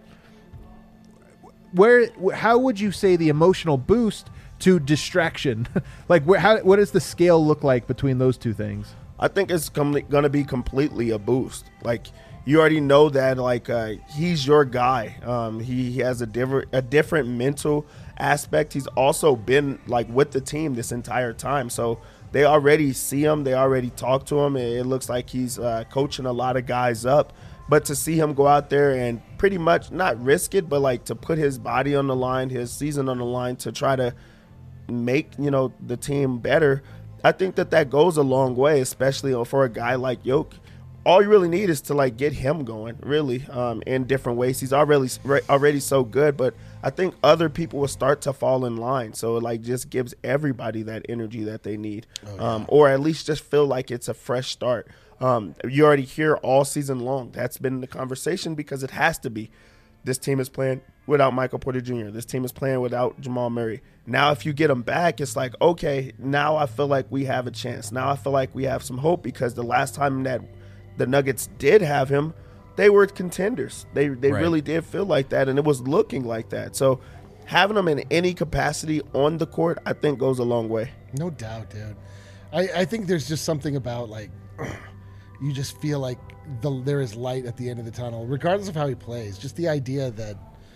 how would you say the emotional boost to distraction? Like, what does the scale look like between those two things? I think it's going to be completely a boost. Like, you already know that, like, he's your guy. He has a different mental aspect. He's also been, like, with the team this entire time. So they already see him. They already talk to him. It looks like he's coaching a lot of guys up. But to see him go out there and pretty much not risk it, but, like, to put his body on the line, his season on the line to try to make, the team better, I think that goes a long way, especially for a guy like Jokic. All you really need is to, like, get him going, really, in different ways. He's already so good, but I think other people will start to fall in line. So it, like, just gives everybody that energy that they need, or at least just feel like it's a fresh start. You already hear all season long. That's been the conversation because it has to be. This team is playing without Michael Porter Jr. This team is playing without Jamal Murray. Now if you get them back, it's like, okay, now I feel like we have a chance. Now I feel like we have some hope because the last time that the Nuggets did have him, they were contenders. They really did feel like that, and it was looking like that. So having them in any capacity on the court, I think goes a long way. No doubt, dude. I think there's just something about, like, you just feel like there is light at the end of the tunnel, regardless of how he plays. Just the idea that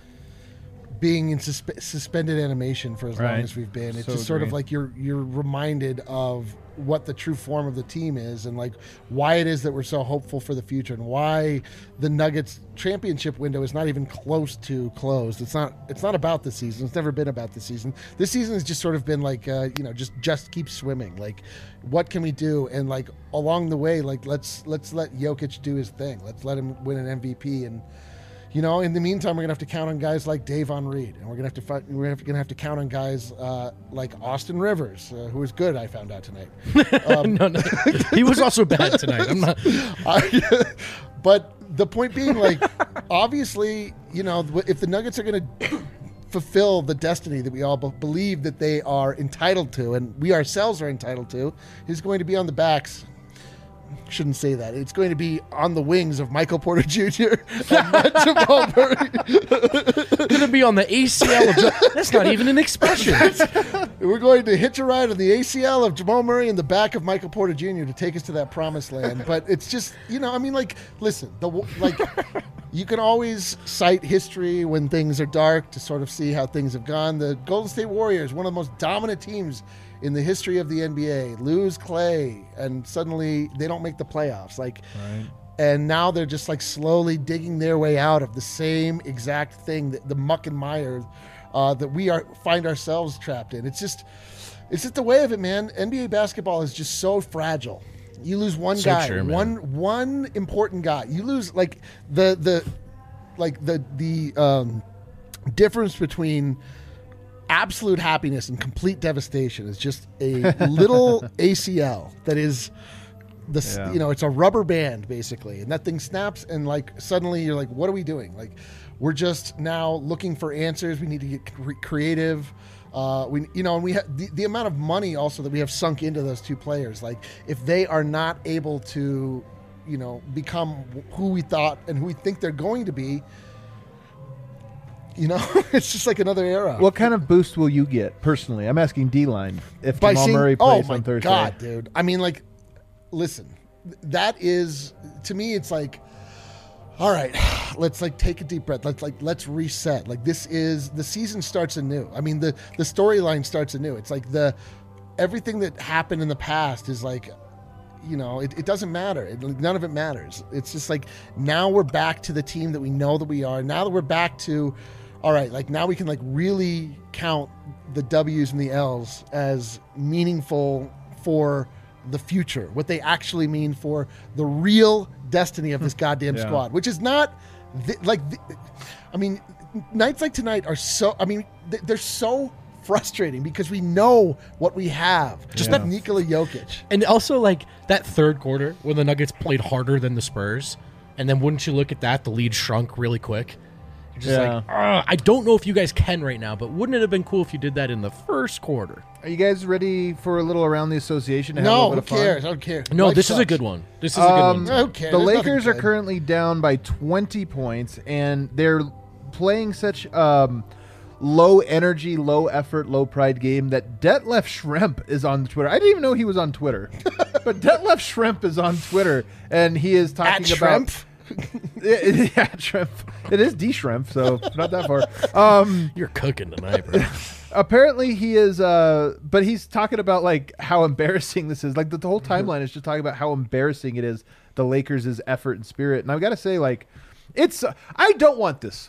being in suspended animation for as long as we've been, it's just sort of like you're reminded of what the true form of the team is and, like, why it is that we're so hopeful for the future and why the Nuggets championship window is not even close to closed. It's not about the season. It's never been about the season. This season has just sort of been like, just keep swimming. Like, what can we do? And, like, along the way, like, let's let Jokic do his thing. Let's let him win an MVP. And, in the meantime, we're gonna have to count on guys like Davon Reed, and we're gonna have to count on guys like Austin Rivers, who was good. I found out tonight. No, he was also bad tonight. I'm not. But the point being, like, obviously, if the Nuggets are gonna fulfill the destiny that we all believe that they are entitled to, and we ourselves are entitled to, is going to be on the backs. Shouldn't say that. It's going to be on the wings of Michael Porter Jr. and Jamal Murray. Going to be on the ACL of that's not even an expression. We're going to hitch a ride on the ACL of Jamal Murray in the back of Michael Porter Jr. to take us to that promised land. But it's just, listen, you can always cite history when things are dark to sort of see how things have gone. The Golden State Warriors, one of the most dominant teams in the history of the NBA, lose Clay, and suddenly they don't make the playoffs. And now they're just, like, slowly digging their way out of the same exact thing, the muck and mire that we find ourselves trapped in. It's just the way of it, man. NBA basketball is just so fragile. You lose one guy, true, one important guy. You lose, like, the difference between absolute happiness and complete devastation is just a little ACL that is it's a rubber band basically, and that thing snaps, and, like, suddenly you're like, what are we doing? Like, we're just now looking for answers. We need to get creative. And we have the amount of money also that we have sunk into those two players. Like, if they are not able to, become who we thought and who we think they're going to be, it's just like another era. What kind of boost will you get personally? I'm asking D-line if Jamal Murray plays on Thursday. Oh my God, dude! I mean, like, listen, that is, to me, it's like, all right, let's, like, take a deep breath. Let's reset. Like, the season starts anew. I mean, the storyline starts anew. It's like everything that happened in the past is like, it doesn't matter. None of it matters. It's just like, now we're back to the team that we know that we are. Now that we're back to, all right, like, now we can, like, really count the W's and the L's as meaningful for the future, what they actually mean for the real destiny of this goddamn squad, which is not I mean, nights like tonight are so. I mean, they're so frustrating because we know what we have. Just that Nikola Jokic. And also, like, that third quarter when the Nuggets played harder than the Spurs, and then wouldn't you look at that, the lead shrunk really quick. You're just like, I don't know if you guys can right now, but wouldn't it have been cool if you did that in the first quarter? Are you guys ready for a little around the association? To have a No, little who bit of fun? cares? I don't care. No, Life this is a sucks. good one. This is a good one. Who cares? The There's nothing Lakers are good. currently down by 20 points, and they're playing such low energy, low effort, low pride game that Detlef Schrempf is on Twitter. I didn't even know he was on Twitter, but Detlef Schrempf is on Twitter, and he is talking At about Schrempf? yeah, Schrempf. It is D Schrempf, so not that far. You're cooking tonight, bro. Apparently he is, but he's talking about like how embarrassing this is. Like the whole timeline is just talking about how embarrassing it is, the Lakers' effort and spirit. And I've got to say, like, I don't want this.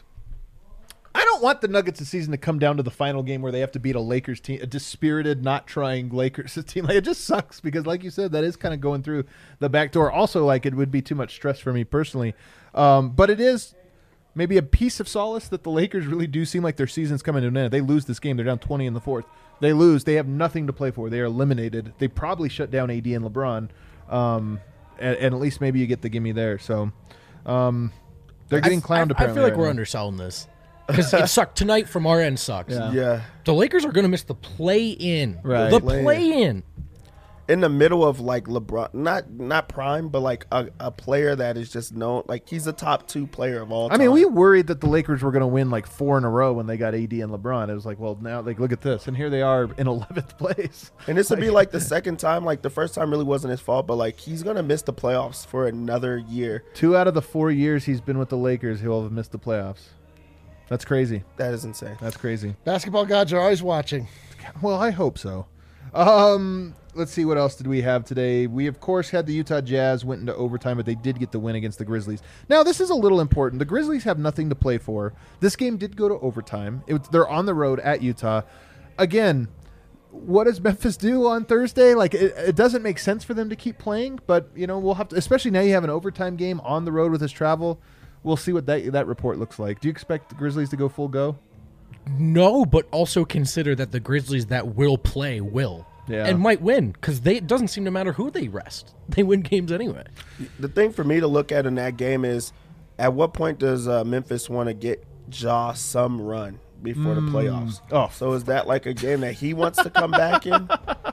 I don't want the Nuggets this season to come down to the final game where they have to beat a Lakers team, a dispirited, not trying Lakers team. Like, it just sucks because, like you said, that is kind of going through the back door. Also, like, it would be too much stress for me personally. But it is maybe a piece of solace that the Lakers really do seem like their season's coming to an end. They lose this game. They're down 20 in the fourth. They lose. They have nothing to play for. They are eliminated. They probably shut down AD and LeBron. And at least maybe you get the gimme there. So they're getting clowned I apparently. feel like right we're now. underselling this. Because it sucked. Tonight from our end sucks. Yeah. The Lakers are going to miss the play-in. Right. The Play-in. play-in. In the middle of like LeBron, not prime, but like a player that is just known, like he's a top 2 player of all time. I mean, we worried that the Lakers were going to win like 4 in a row when they got AD and LeBron. It was like, well, now like look at this, and here they are in 11th place. And this would be like the second time. Like the first time really wasn't his fault, but like he's gonna miss the playoffs for another year. 2 out of the 4 years he's been with the Lakers, he'll have missed the playoffs. That's crazy. That is insane. That's crazy. Basketball gods are always watching. Well, I hope so. Let's see, what else did we have today? We, of course, had the Utah Jazz went into overtime, but they did get the win against the Grizzlies. Now, this is a little important. The Grizzlies have nothing to play for. This game did go to overtime. They're on the road at Utah. Again, what does Memphis do on Thursday? Like, it doesn't make sense for them to keep playing, but, you know, we'll have to, especially now you have an overtime game on the road with his travel. We'll see what that report looks like. Do you expect the Grizzlies to go full go? No, but also consider that the Grizzlies that will play will. Yeah. And might win because it doesn't seem to matter who they rest. They win games anyway. The thing for me to look at in that game is, at what point does Memphis want to get Ja some run before the playoffs? Oh. So is that like a game that he wants to come back in?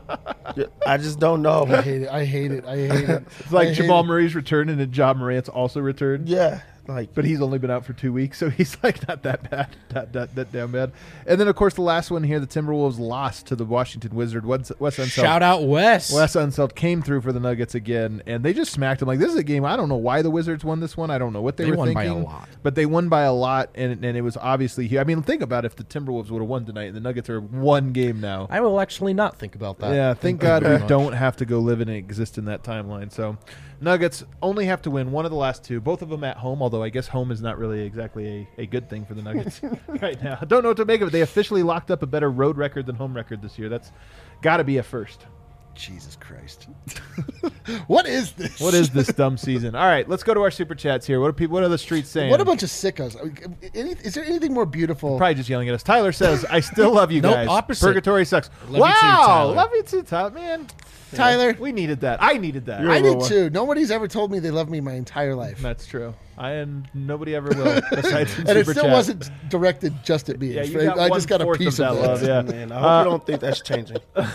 I just don't know. I hate it. I hate it. I hate it. It's like I hate Jamal it. Murray's returned and then Ja Morant's also returned. Yeah, like But he's only been out for 2 weeks, so he's like not that bad, that damn bad. And then, of course, the last one here, the Timberwolves lost to the Washington Wizards. Wes Unseld. Shout out Wes. Wes Unseld came through for the Nuggets again, and they just smacked him. Like, this is a game, I don't know why the Wizards won this one. I don't know what they were won thinking. by a lot. But they won by a lot, and it was obviously huge. I mean, think about if the Timberwolves would have won tonight, and the Nuggets are one game now. I will actually not think about that. Yeah, thank God we don't have to go live and exist in that timeline. So, Nuggets only have to win one of the last 2, both of them at home, although I guess home is not really exactly a good thing for the Nuggets right now. I don't know what to make of it. They officially locked up a better road record than home record this year. That's got to be a first. Jesus Christ. What is this? What is this dumb season? All right, let's go to our super chats here. What are the streets saying? What a bunch of sickos. Is there anything more beautiful? Probably just yelling at us. Tyler says, I still love you Nope, guys. opposite. Purgatory sucks. Love you too, wow. Tyler. Love you too, Tyler. Man. Tyler, We needed that. I needed that. You're- I little did too. Nobody's ever told me they love me my entire life. That's true. And nobody ever will. Besides in And it super still chat. wasn't directed just at me. Yeah, you I got just got a 1/4 piece of of that love. Yeah. man, I hope you don't think that's changing.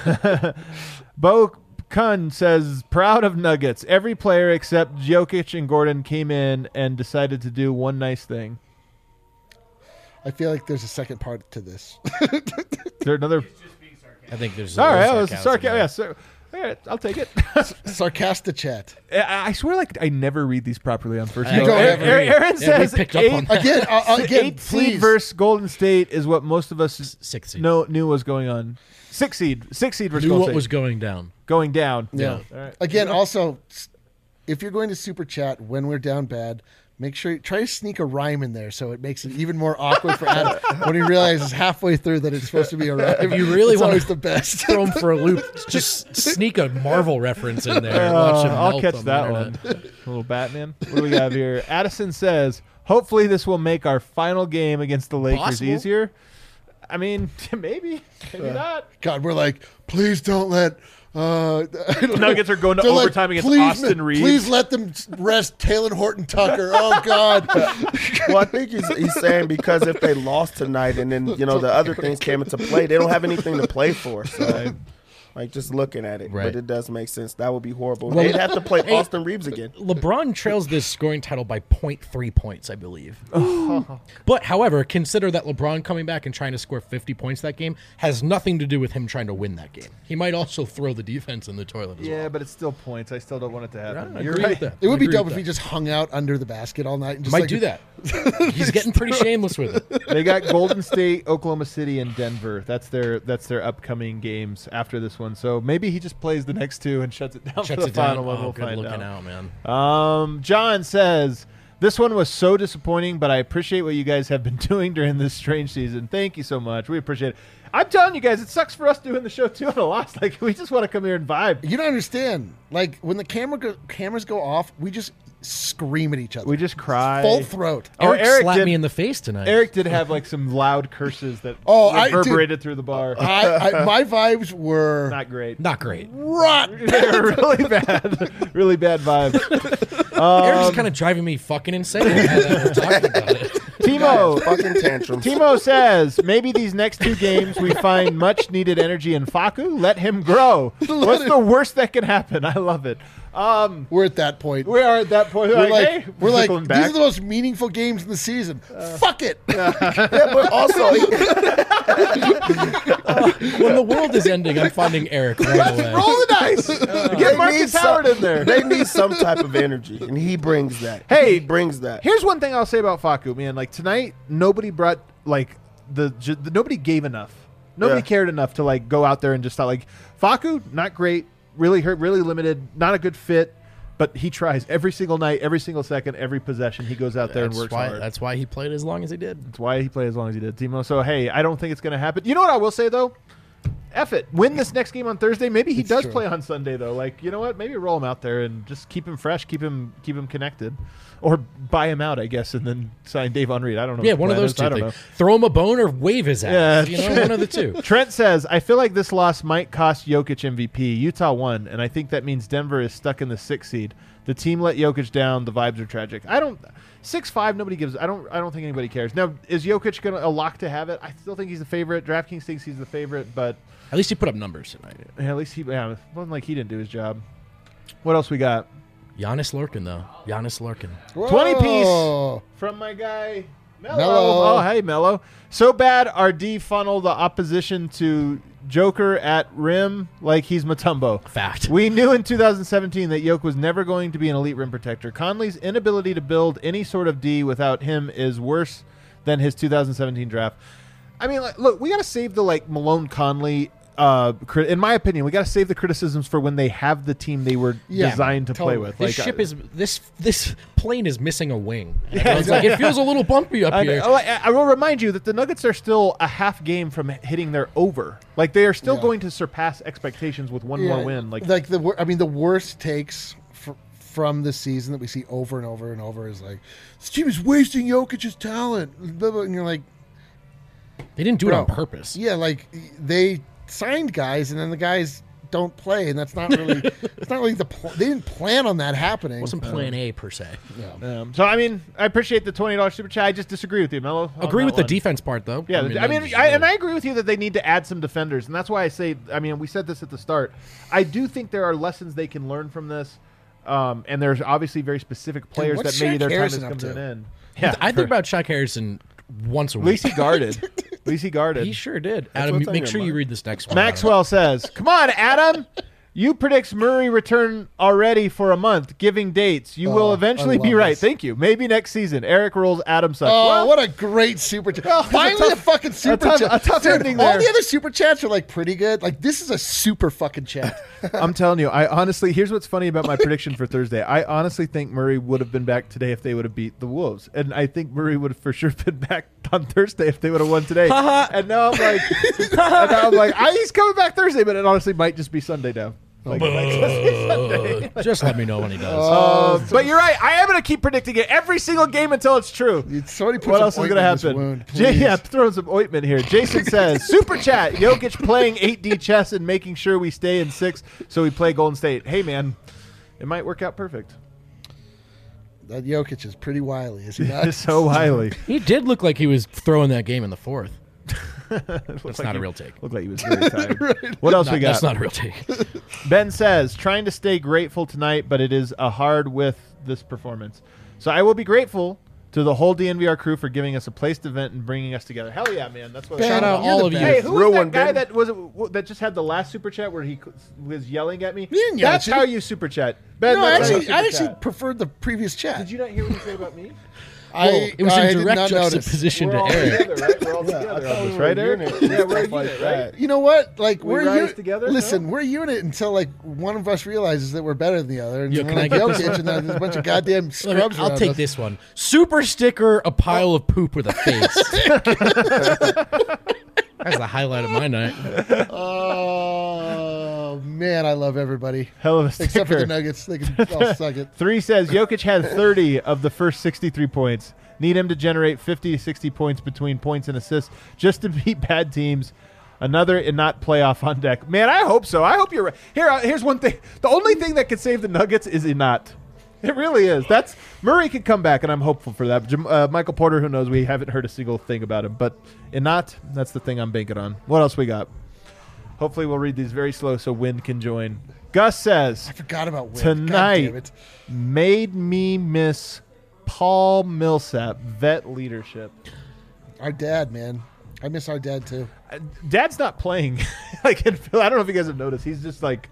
Bo Kun says, proud of Nuggets. Every player except Jokic and Gordon came in and decided to do one nice thing. I feel like there's a second part to this. Is there another? I think there's All right, that little was sarcasm sarcasm. there. Yeah, so, all right, I'll take it. Sarcastic chat. I swear, like I never read these properly on first. I Go. don't Aaron, ever read. Aaron Yeah, we says picked up on that. Again, eight seed please. versus Golden State is what most of us 6 seed. knew was going on. 6 seed versus Knew Golden what State was going down. going down. Yeah. All right. Again, also, if you're going to super chat when we're down bad, Make sure you try to sneak a rhyme in there so it makes it even more awkward for Adam when he realizes halfway through that it's supposed to be a rhyme. If you really It's want always to the best. throw him for a loop, just sneak a Marvel reference in there. And watch him I'll melt catch on the that internet. one. A little Batman. What do we got here? Addison says, hopefully this will make our final game against the Lakers Possible. easier. I mean, maybe not. God, we're like, please don't let. Nuggets are going to They're like, overtime against please, Austin Reeves. Please let them rest Taylor Horton Tucker. Oh God. Well, I think he's saying because if they lost tonight and then the other things came into play, they don't have anything to play for. So, like just looking at it, Right. but it does make sense. That would be horrible. Well, They'd have to play Austin Reeves again. LeBron trails this scoring title by 0.3 points, I believe. But, however, consider that LeBron coming back and trying to score 50 points that game has nothing to do with him trying to win that game. He might also throw the defense in the toilet as Yeah, well. but it's still points. I still don't want it to happen. I You're agree right. with that. It would I be agree dope with if he that. just hung out under the basket all night and just Might like, do that. He's getting pretty shameless with it. They got Golden State, Oklahoma City, and Denver. That's their upcoming games after this one. So maybe he just plays the next two and shuts it down for Shuts the it down. final one. Oh, We'll good find looking out. out, man. John says, this one was so disappointing, but I appreciate what you guys have been doing during this strange season. Thank you so much. We appreciate it. I'm telling you guys, it sucks for us doing the show too on a loss. Like we just want to come here and vibe. You don't understand. Like when the cameras go off, we just scream at each other. We just cry. Full throat. Oh, Eric slapped me in the face tonight. Eric did have like some loud curses that I did. reverberated through the bar. My vibes were Not great. Not great. rotten. They were really bad. Really bad vibes. Eric's kind of driving me fucking insane now that we're talking about it. Timo, Fucking tantrums. Timo says, maybe these next two games we find much needed energy in Facu. Let him grow. What's the worst that can happen? I love it. We're at that point. We are at that point. We're like, hey, we're like, circling these back. are the most meaningful games in the season. Fuck it. Yeah, but also When the world is ending, I'm finding Eric right away. Roll the dice. Get Marcus Howard in there. They need some type of energy, and he brings that. Hey, he brings that. Here's one thing I'll say about Facu, man. Like tonight, nobody brought like nobody gave enough. Nobody Yeah. cared enough to like go out there and just thought like Facu, not great, really hurt, really limited, not a good fit. But he tries every single night, every single second, every possession. He goes out there and works hard. That's why he played as long as he did. That's why he played as long as he did, Timo. So hey, I don't think it's going to happen. You know what I will say though? F it. Win this next game on Thursday. Maybe he does true. play on Sunday though. Like, you know what? Maybe roll him out there and just keep him fresh, keep him connected, or buy him out, I guess, and then sign Dave Unread. I don't know. Yeah, what the one of plan those is. two I don't things. know. Throw him a bone or wave his ass. Yeah. You know, one of the two. Trent says, I feel like this loss might cost Jokic MVP. Utah won, and I think that means Denver is stuck in the 6th seed. The team let Jokic down. The vibes are tragic. 6-5, nobody gives. I don't think anybody cares. Now, is Jokic a lock to have it? I still think he's the favorite. DraftKings thinks he's the favorite, but At least he put up numbers tonight. at least it wasn't like he didn't do his job. What else we got? Giannis Lurkin, though. Giannis Lurkin. 20 piece Whoa. from my guy Mello. Mello. Oh, hey, Mello. So bad our D funnel the opposition to Joker at rim like he's Mutombo. Fact. We knew in 2017 that Yoke was never going to be an elite rim protector. Conley's inability to build any sort of D without him is worse than his 2017 draft. I mean, like, look, we got to save the Malone Conley. In my opinion, we got to save the criticisms for when they have the team they were designed to play totally. with. This plane is missing a wing. It's like it feels a little bumpy up here. I will remind you that the Nuggets are still a half game from hitting their over. Like they are still going to surpass expectations with one more win. The worst takes from this season that we see over and over and over is like, this team is wasting Jokic's talent. Blah, blah, and you're like, They didn't do it bro, on purpose. Yeah, like they signed guys and then the guys don't play, and that's not really. It's not really they didn't plan on that happening. It wasn't plan A per se. So I mean, I appreciate the $20 super chat. I just disagree with you, Mello. on Agree that with the one. defense part, though. Yeah, I agree with you that they need to add some defenders, and that's why I say. I mean, we said this at the start. I do think there are lessons they can learn from this, and there's obviously very specific players what's that maybe Shaq their time Harrison has up come to to? an end. Yeah, I think about Shaq Harrison once a At week. least he guarded. At least he guarded. He sure did. That's Adam, what's on make your sure you mind. read this next one. Maxwell says, "Come on, Adam. You predicts Murray return already for a month, giving dates. You will eventually I be love right. this. Thank you. Maybe next season. Eric rolls. Adam sucks. Oh, Well, what a great super chat! Well, it's Finally, a tough- a fucking super tough- chat. a tough Dude, ending all there. the other super chats are like pretty good. Like this is a super fucking chat. I'm telling you, I honestly, here's what's funny about my prediction for Thursday. I honestly think Murray would have been back today if they would have beat the Wolves. And I think Murray would have for sure been back on Thursday if they would have won today. And now I'm like, he's coming back Thursday, but it honestly might just be Sunday now. Like, Just let me know when he does. but you're right. I am going to keep predicting it every single game until it's true. Somebody put What some else is going to ointment in this happen? wound, please. Yeah, throwing some ointment here. Jason says, Super Chat, Jokic playing 8D chess and making sure we stay in 6 so we play Golden State. Hey, man, it might work out perfect. That Jokic is pretty wily, is he not? So highly. He did look like he was throwing that game in the fourth. That's not a real take. Looked like he was very tired. What else we got? That's not a real take. Ben says, trying to stay grateful tonight, but it is a hard with this performance. So I will be grateful to the whole DNVR crew for giving us a place to vent and bringing us together. Hell yeah, man. That's what Ben, Shout out you're all the of you. best. Hey, who Real was that one, guy Ben. that just had the last super chat where he was yelling at me? didn't yell That's at you. how you super chat. Ben, No, that's how you I super actually chat. preferred the previous chat. Did you not hear what he said about me? It was I in did direct not notice. juxtaposition We're to all Eric. together, right? We're all together on this, right, Eric? Yeah, we're a unit, right? You know what? Like We we're rise together, Listen, no? we're a unit until like one of us realizes that we're better than the other, and Yo, we're can I like get this Jokic, and then there's a bunch of goddamn scrubs I'll around take us. this one. Super sticker, a pile of poop with a face. That's the highlight of my night. Oh man, I love everybody Hell of a sticker. except for the Nuggets. They can all suck it. 3 says Jokic had 30 of the first 63 points. Need him to generate 50 to 60 points between points and assists just to beat bad teams. Another and not playoff on deck. Man, I hope so. I hope you're right. Here's one thing. The only thing that could save the Nuggets is Inat. It really is. That's Murray could come back, and I'm hopeful for that. Michael Porter, who knows? We haven't heard a single thing about him. But Inat, that's the thing I'm banking on. What else we got? Hopefully we'll read these very slow so Win can join. Gus says, I forgot about Win. Tonight. God damn it. made me miss Paul Millsap, vet leadership. Our dad, man. I miss our dad too. Dad's not playing. Like in Phil, I don't know if you guys have noticed. He's just like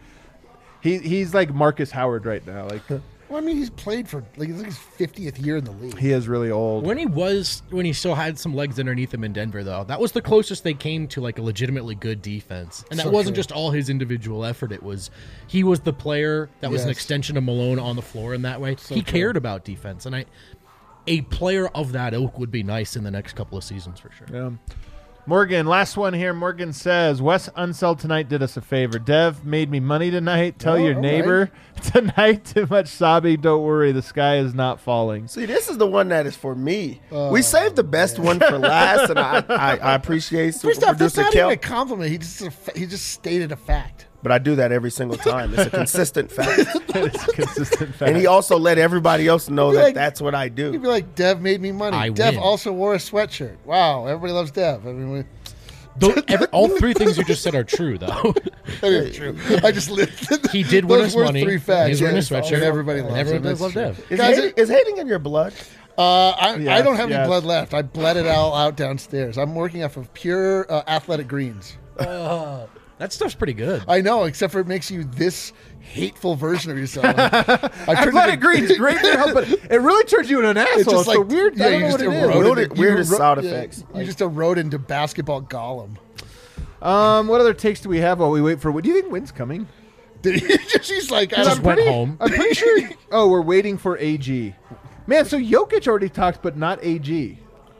he's like Marcus Howard right now. Like Well, I mean, he's played for like it's like his 50th year in the league. he is really old. When he still had some legs underneath him in Denver, though, that was the closest they came to like a legitimately good defense. And that So wasn't true. just all his individual effort. He was the player that was an Yes. extension of Malone on the floor in that way. He cared about defense, and a player of that ilk would be nice in the next couple of seasons for sure. Morgan, last one here. Morgan says, Wes Unseld tonight did us a favor. Dev made me money tonight. Tell your all neighbor tonight too much sobbing. Don't worry, the sky is not falling. See, this is the one that is for me. We saved the best one for last, and I appreciate super First off, that's producer not even Kel. a compliment. He just stated a fact. But I do that every single time. It's a consistent fact. It's a consistent fact. And he also let everybody else know You'd be that like- that's what I He'd do. be like, Dev made me money. I Dev win. also wore a sweatshirt. Wow, everybody loves Dev. I mean, All three things you just said are true, though. that is true. I just lived. He did win Those us were money. three facts. He's wearing a Yes, sweatshirt. and everybody And loves everyone him. does love That's Dev. Is, Guys, is hating in your blood? I Yes, don't have yes. any blood left. I bled it all out downstairs. I'm working off of pure athletic greens. That stuff's pretty good. I know, except for it makes you this hateful version of yourself. I turned Athletic into- Green's great for help, but it really turns you into an asshole. It's just so like weird. Yeah, I don't you know just what it is. erode Weirdest- into- weirdest you sound yeah, effects. You just erode into basketball golem. What other takes do we have while we wait for? Do you think Wynn's coming? She's like, I Just don't- went home. I'm pretty sure. Oh, we're waiting for AG. Man, so Jokic already talked, but not AG.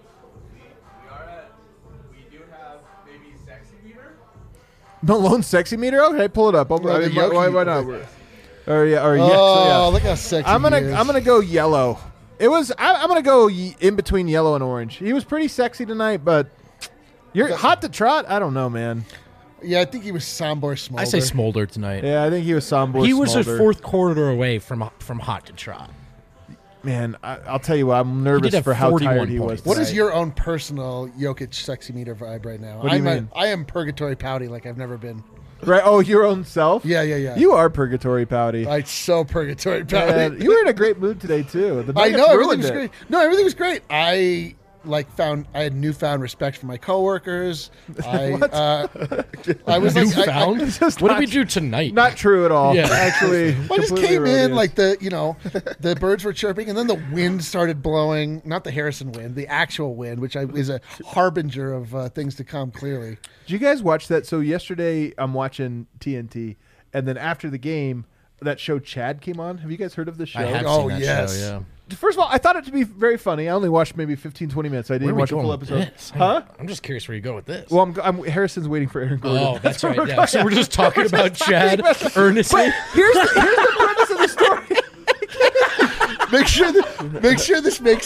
We do have maybe sexy meter. Malone sexy meter. Okay, pull it up. No, the Jokic- Why not? Or yeah, or Oh, yeah. So yeah. look how sexy I'm he is. gonna go yellow. I'm gonna go in between yellow and orange. He was pretty sexy tonight, but you're hot to trot. I don't know, man. Yeah, I think he was Sombor Smolder. I say Smolder tonight. Yeah, I think he was Sombor. He was a Smolder. fourth quarter away from hot to trot. Man, I'll tell you what. I'm He nervous did have for how 41 tired he was. points. What is tonight. your own personal Jokic sexy meter vibe right now? What do you mean? I am purgatory pouty like I've never been. Right? Oh, your own self. Yeah. You are purgatory pouty. I'm so purgatory pouty. Man, you were in a great mood today too. The I Nuggets know everything ruined was it. great. No, everything was great. I I had newfound respect for my coworkers. I was like, Newfound? Just What did not- we do tonight? Not true at all. Yeah. Actually, I just completely came in erroneous. like the birds were chirping, and then the wind started blowing. Not the Harrison wind, the actual wind, which is a harbinger of things to come. Clearly, Did you guys watch that? So yesterday I'm watching TNT, and then after the game, that show Chad came on. Have you guys heard of the show? I have Oh, seen that yes. show, yeah. First of all, I thought it to be very funny. I only watched maybe 15, 20 minutes. I Where didn't are we watch a going full with episode. this? Huh? I'm just curious where you go with this. Well, Harrison's waiting for Aaron Gordon. oh, that's right. Yeah. So we're just talking about Chad earnestly. Here's the premise of the story. make sure this makes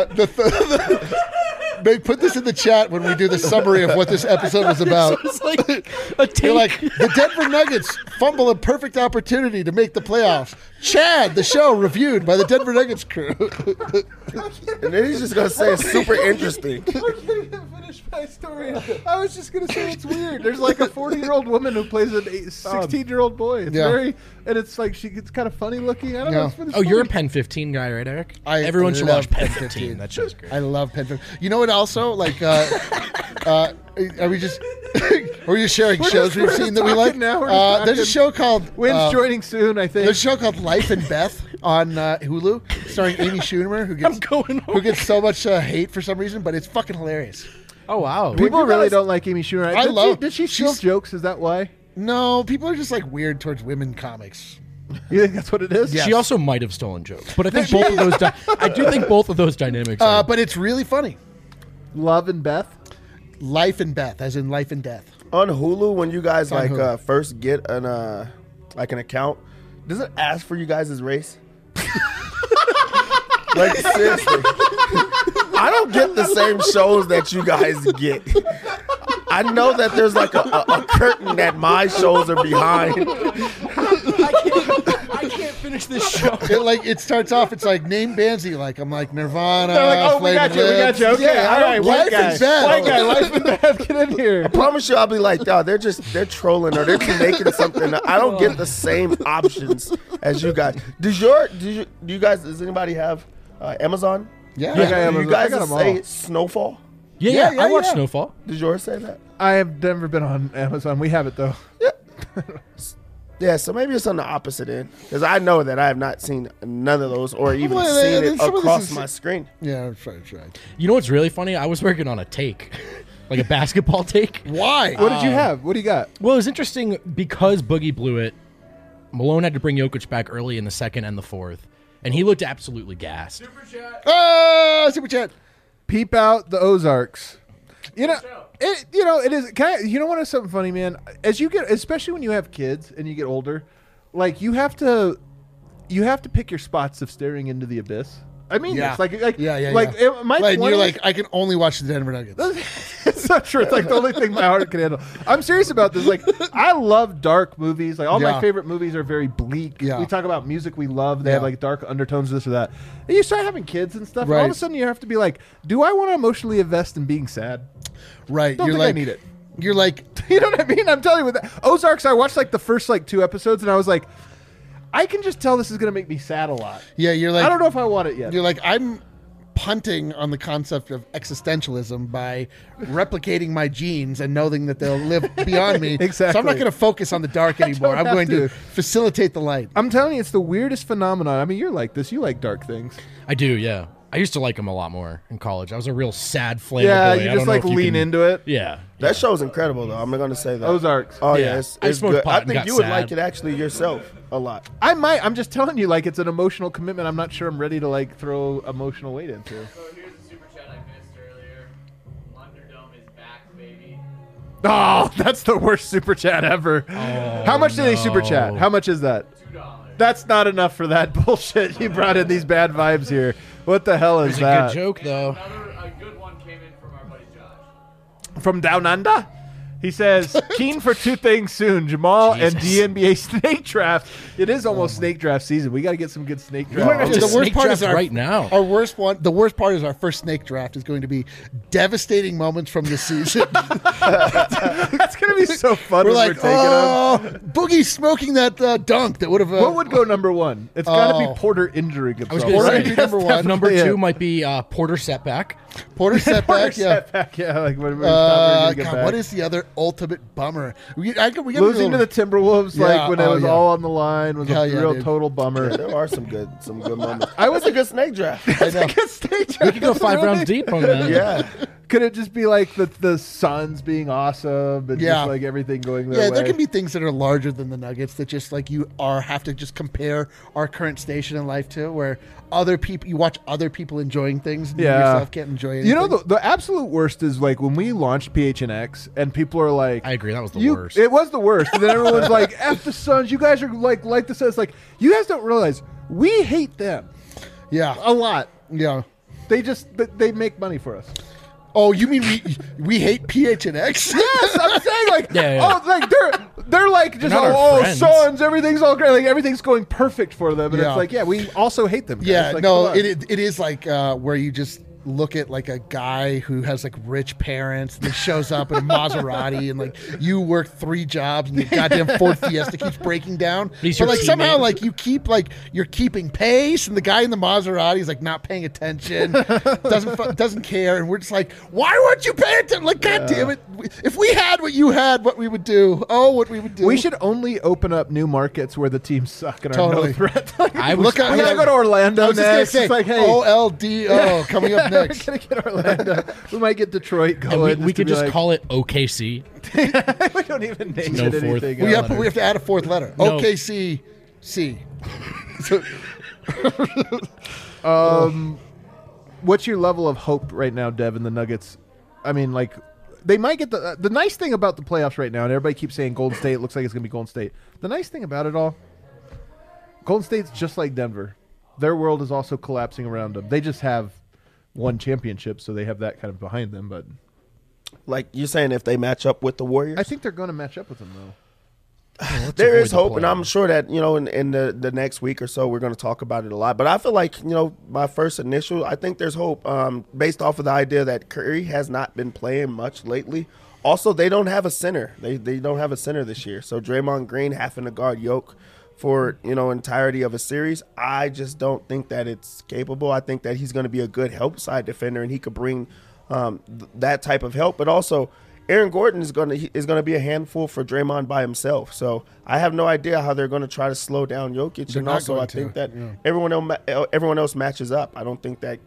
put this in the chat when we do the summary of what this episode was about. It's like a take. You're like, the Denver Nuggets fumble a perfect opportunity to make the playoffs. Chad, the show reviewed by the Denver Nuggets crew. And then he's just gonna say it's super interesting. I can't even finish my story. I was just gonna say it's weird. There's like a 40-year-old woman who plays a 16-year-old boy. It's Yeah. and it's like it's kind of funny looking. I don't know. Yeah. It's really Oh, you're a funny. Pen 15 guy, right, Eric? I Everyone should love watch Pen Pen 15. 15. That show's great. I love Pen 15. You know what? Also, like, are we just sharing We're shows just- we've we're seen just that we like? talking now. We're just There's a talking. show called Wynn's joining soon, I think. There's a show called Life and Beth on Hulu, starring Amy Schumer, who I'm gets going who gets so much hate for some reason, but it's fucking hilarious. Oh, wow. People you really guys- don't like Amy Schumer. I love- Did she steal she's- jokes? Is that why? No, people are just like weird towards women comics. You think that's what it is? Yeah. She also might have stolen jokes, but I think both of those. I do think both of those dynamics. Are, But it's really funny. Love and Beth. Life and Beth, as in life and death. On Hulu, when you guys On like Hulu. first get an account, does it ask for you guys' race? Like seriously, I don't get the same shows that you guys get. I know that there's like a curtain that my shows are behind. I can't finish this show. It starts off. It's like name bands that you like. I'm like Nirvana. They're like, oh, we got Flaming you. We got Lips. you. Okay, Yeah, all right. Life White guy. and Beth. White guy. Life and Beth. Get in here. I promise you, I'll be like, oh, they're trolling or they're making something. I don't get the same options as you guys. Do you guys? Does anybody have Amazon? Yeah. I got Do you Amazon. guys I got 'em say all. Snowfall? Yeah, Yeah, I watched yeah. Snowfall. Did yours say that? I have never been on Amazon. We have it though. Yeah, so maybe it's on the opposite end because I know that I have not seen none of those or even Well, seen then it some of this across is- my screen. Yeah, that's right. You know what's really funny? I was working on a take, like a basketball take. Why? What did you have? What do you got? Well, it was interesting because Boogie blew it. Malone had to bring Jokic back early in the second and the fourth, and he looked absolutely gassed. Super chat. Peep out the Ozarks. You know, it is. You know what is something funny, man? As you get, especially when you have kids and you get older, like you have to pick your spots of staring into the abyss. I mean, Yeah. it's like Yeah. my Like 20s you're like, I can only watch the Denver Nuggets. it's not true. It's like the only thing my heart can handle. I'm serious about this. Like, I love dark movies. Like, all my Yeah. favorite movies are very bleak. Yeah. We talk about music we love. They Yeah. have like dark undertones, this or that. And you start having kids and stuff. And all of a Right. sudden, you have to be like, do I want to emotionally invest in being sad? Right. Don't you're think I like, need it. You're like, You know what I mean? I'm telling you, with that. Ozarks, I watched like the first like 2 episodes, and I was like, I can just tell this is going to make me sad a lot. yeah, you're like, I don't know if I want it yet. You're like, I'm punting on the concept of existentialism by replicating my genes and knowing that they'll live beyond me. So I'm Exactly. not going to focus on the dark anymore. don't I'm have going to to. facilitate the light. I'm telling you, it's the weirdest phenomenon. I mean, you're like this. You like dark things. I do, yeah. I used to like him a lot more in college. I was a real sad flavor Yeah, boy. you I just don't know like if you lean can- into it. Yeah. That show's incredible, though. I'm going to say that. Ozarks. Oh, Yeah. yeah. It's I smoked good. pot I and think got you would sad. like it actually yourself a lot. I might. I'm just telling you, like, it's an emotional commitment. I'm not sure I'm ready to like throw emotional weight into. So here's a super chat I missed earlier. Thunderdome is back, baby. Oh, that's the worst super chat ever. How much did they super chat? How much is that? $2. That's not enough for that bullshit. You brought in these bad vibes here. What the hell is It's a that? good joke, though. A good one came in from our buddy Josh. From Down Under? He says, keen for two things soon, Jamal and Jesus. DNBA snake draft. It is almost snake draft season. We got to get some good snake We might have draft. to the worst snake part is draft our right now. Our worst one. The worst part is our first snake draft is going to be devastating moments from the season. That's going to be so fun We're when like, we're taking them. oh, Boogie smoking that dunk that would have. What would go number one? It's got to Oh. be Porter injuring himself. I was going Porter to would say be number one. Number Yeah. 2 might be Porter setback. Porter setback? Porter Yeah. setback, yeah. Like when we thought we were gonna get God, back. what is the other ultimate bummer? We gotta Losing to the Timberwolves, Yeah, like when it oh, was yeah. all on the line, was Hell a yeah, real dude. total bummer. There are some good moments. I was That's a good snake draft. I know. We could go 5 rounds deep on that. Yeah. Could it just be like the Suns being awesome and Yeah. just like everything going their Yeah, way? there can be things that are larger than the Nuggets that just like you have to just compare our current station in life to, where other people, you watch other people enjoying things and you Yeah. yourself can't enjoy anything. You know, the absolute worst is like when we launched PHNX and people are like, I agree. That was the you, worst. It was the worst. And then everyone's like, F the Suns. You guys are like the Suns. Like, you guys don't realize we hate them Yeah. a lot. Yeah. They make money for us. Oh, you mean we hate PHNX? Yes, I'm saying like, Yeah. oh, like they're like just not our oh friends. Suns, everything's all great, like everything's going perfect for them, and Yeah. it's like, yeah, we also hate them. Guys. Yeah, Like, no, come on. it is like where you just look at like a guy who has like rich parents and he shows up in a Maserati and like you work 3 jobs and your goddamn Ford Fiesta keeps breaking down. He's But your like somehow teammate. like you keep like you're keeping pace and the guy in the Maserati is like not paying attention, doesn't care, and we're just like, why weren't you paying attention? Like, god damn it, if we had what you had, what we would do? Oh, what we would do? We should only open up new markets where the teams suck and are Totally. no threat. Like, I was, Look at- we gotta go to Orlando I was just gonna next. say, It's like, hey, OLDO coming up we're next. gonna get Orlando. We might get Detroit and going. we could just like, call it OKC. we don't even name No it fourth. anything. We else. have to add a 4th letter. No. OKC. So, What's your level of hope right now, Dev, in the Nuggets? I mean, like, they might get the nice thing about the playoffs right now, and everybody keeps saying Golden State looks like it's going to be Golden State. The nice thing about it all, Golden State's just like Denver. Their world is also collapsing around them. They just have one championship, so they have that kind of behind them. But Like you're saying, if they match up with the Warriors, I think they're going to match up with them, though. there avoid is the hope, and play. I'm sure that in the next week or so we're going to talk about it a lot. But I feel like my first initial, I think there's hope based off of the idea that Curry has not been playing much lately. Also, they don't have a center. They don't have a center this year. So Draymond Green having to guard Yoke for entirety of a series, I just don't think that it's capable. I think that he's going to be a good help side defender, and he could bring that type of help. But also, Aaron Gordon is going to be a handful for Draymond by himself. So I have no idea how they're going to try to slow down Jokic. They're And not also, going I to, think that yeah. everyone else matches up. I don't think that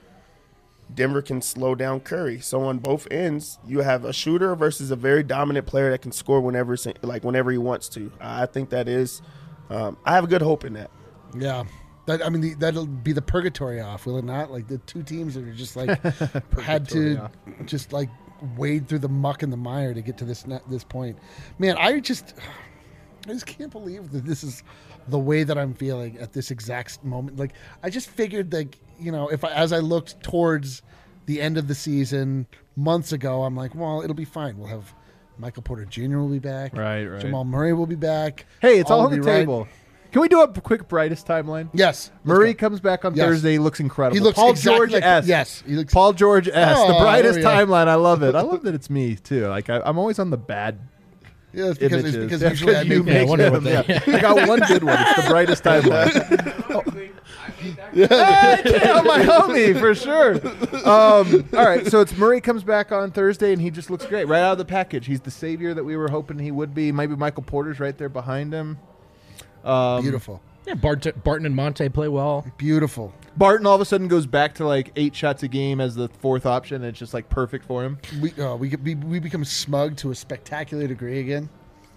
Denver can slow down Curry. So on both ends, you have a shooter versus a very dominant player that can score whenever he wants to. I think that is. I have a good hope in that. yeah. That'll be the purgatory off, will it not? Like the two teams that are just like had to just like wade through the muck and the mire to get to this point. Man, I just can't believe that this is the way that I'm feeling at this exact moment. Like I just figured that as I looked towards the end of the season months ago, I'm like, well, it'll be fine. We'll have Michael Porter Jr. will be back. Right. Jamal Murray will be back. Hey, it's all will on the be right. table. Can we do a quick brightest timeline? Yes. let's Murray go. comes back on Yes. Thursday. He looks incredible. He looks Paul exactly George like- S. yes, he looks- Paul George S. Oh, the brightest there we go. timeline. I love it. I love that it's me too. Like I'm always on the bad Yeah, it's because, images. it's because Yeah, usually I you make Yeah, I make wonder them. what they- Yeah. I got one good one. It's the brightest timeline. I made that. Hey, kill my homie for sure. All right, so it's Murray comes back on Thursday and he just looks great right out of the package. He's the savior that we were hoping he would be. Maybe Michael Porter's right there behind him. beautiful. Yeah, Barton and Monte play well. Beautiful. Barton all of a sudden goes back to like 8 shots a game as the 4th option. And it's just like perfect for him. We become smug to a spectacular degree again.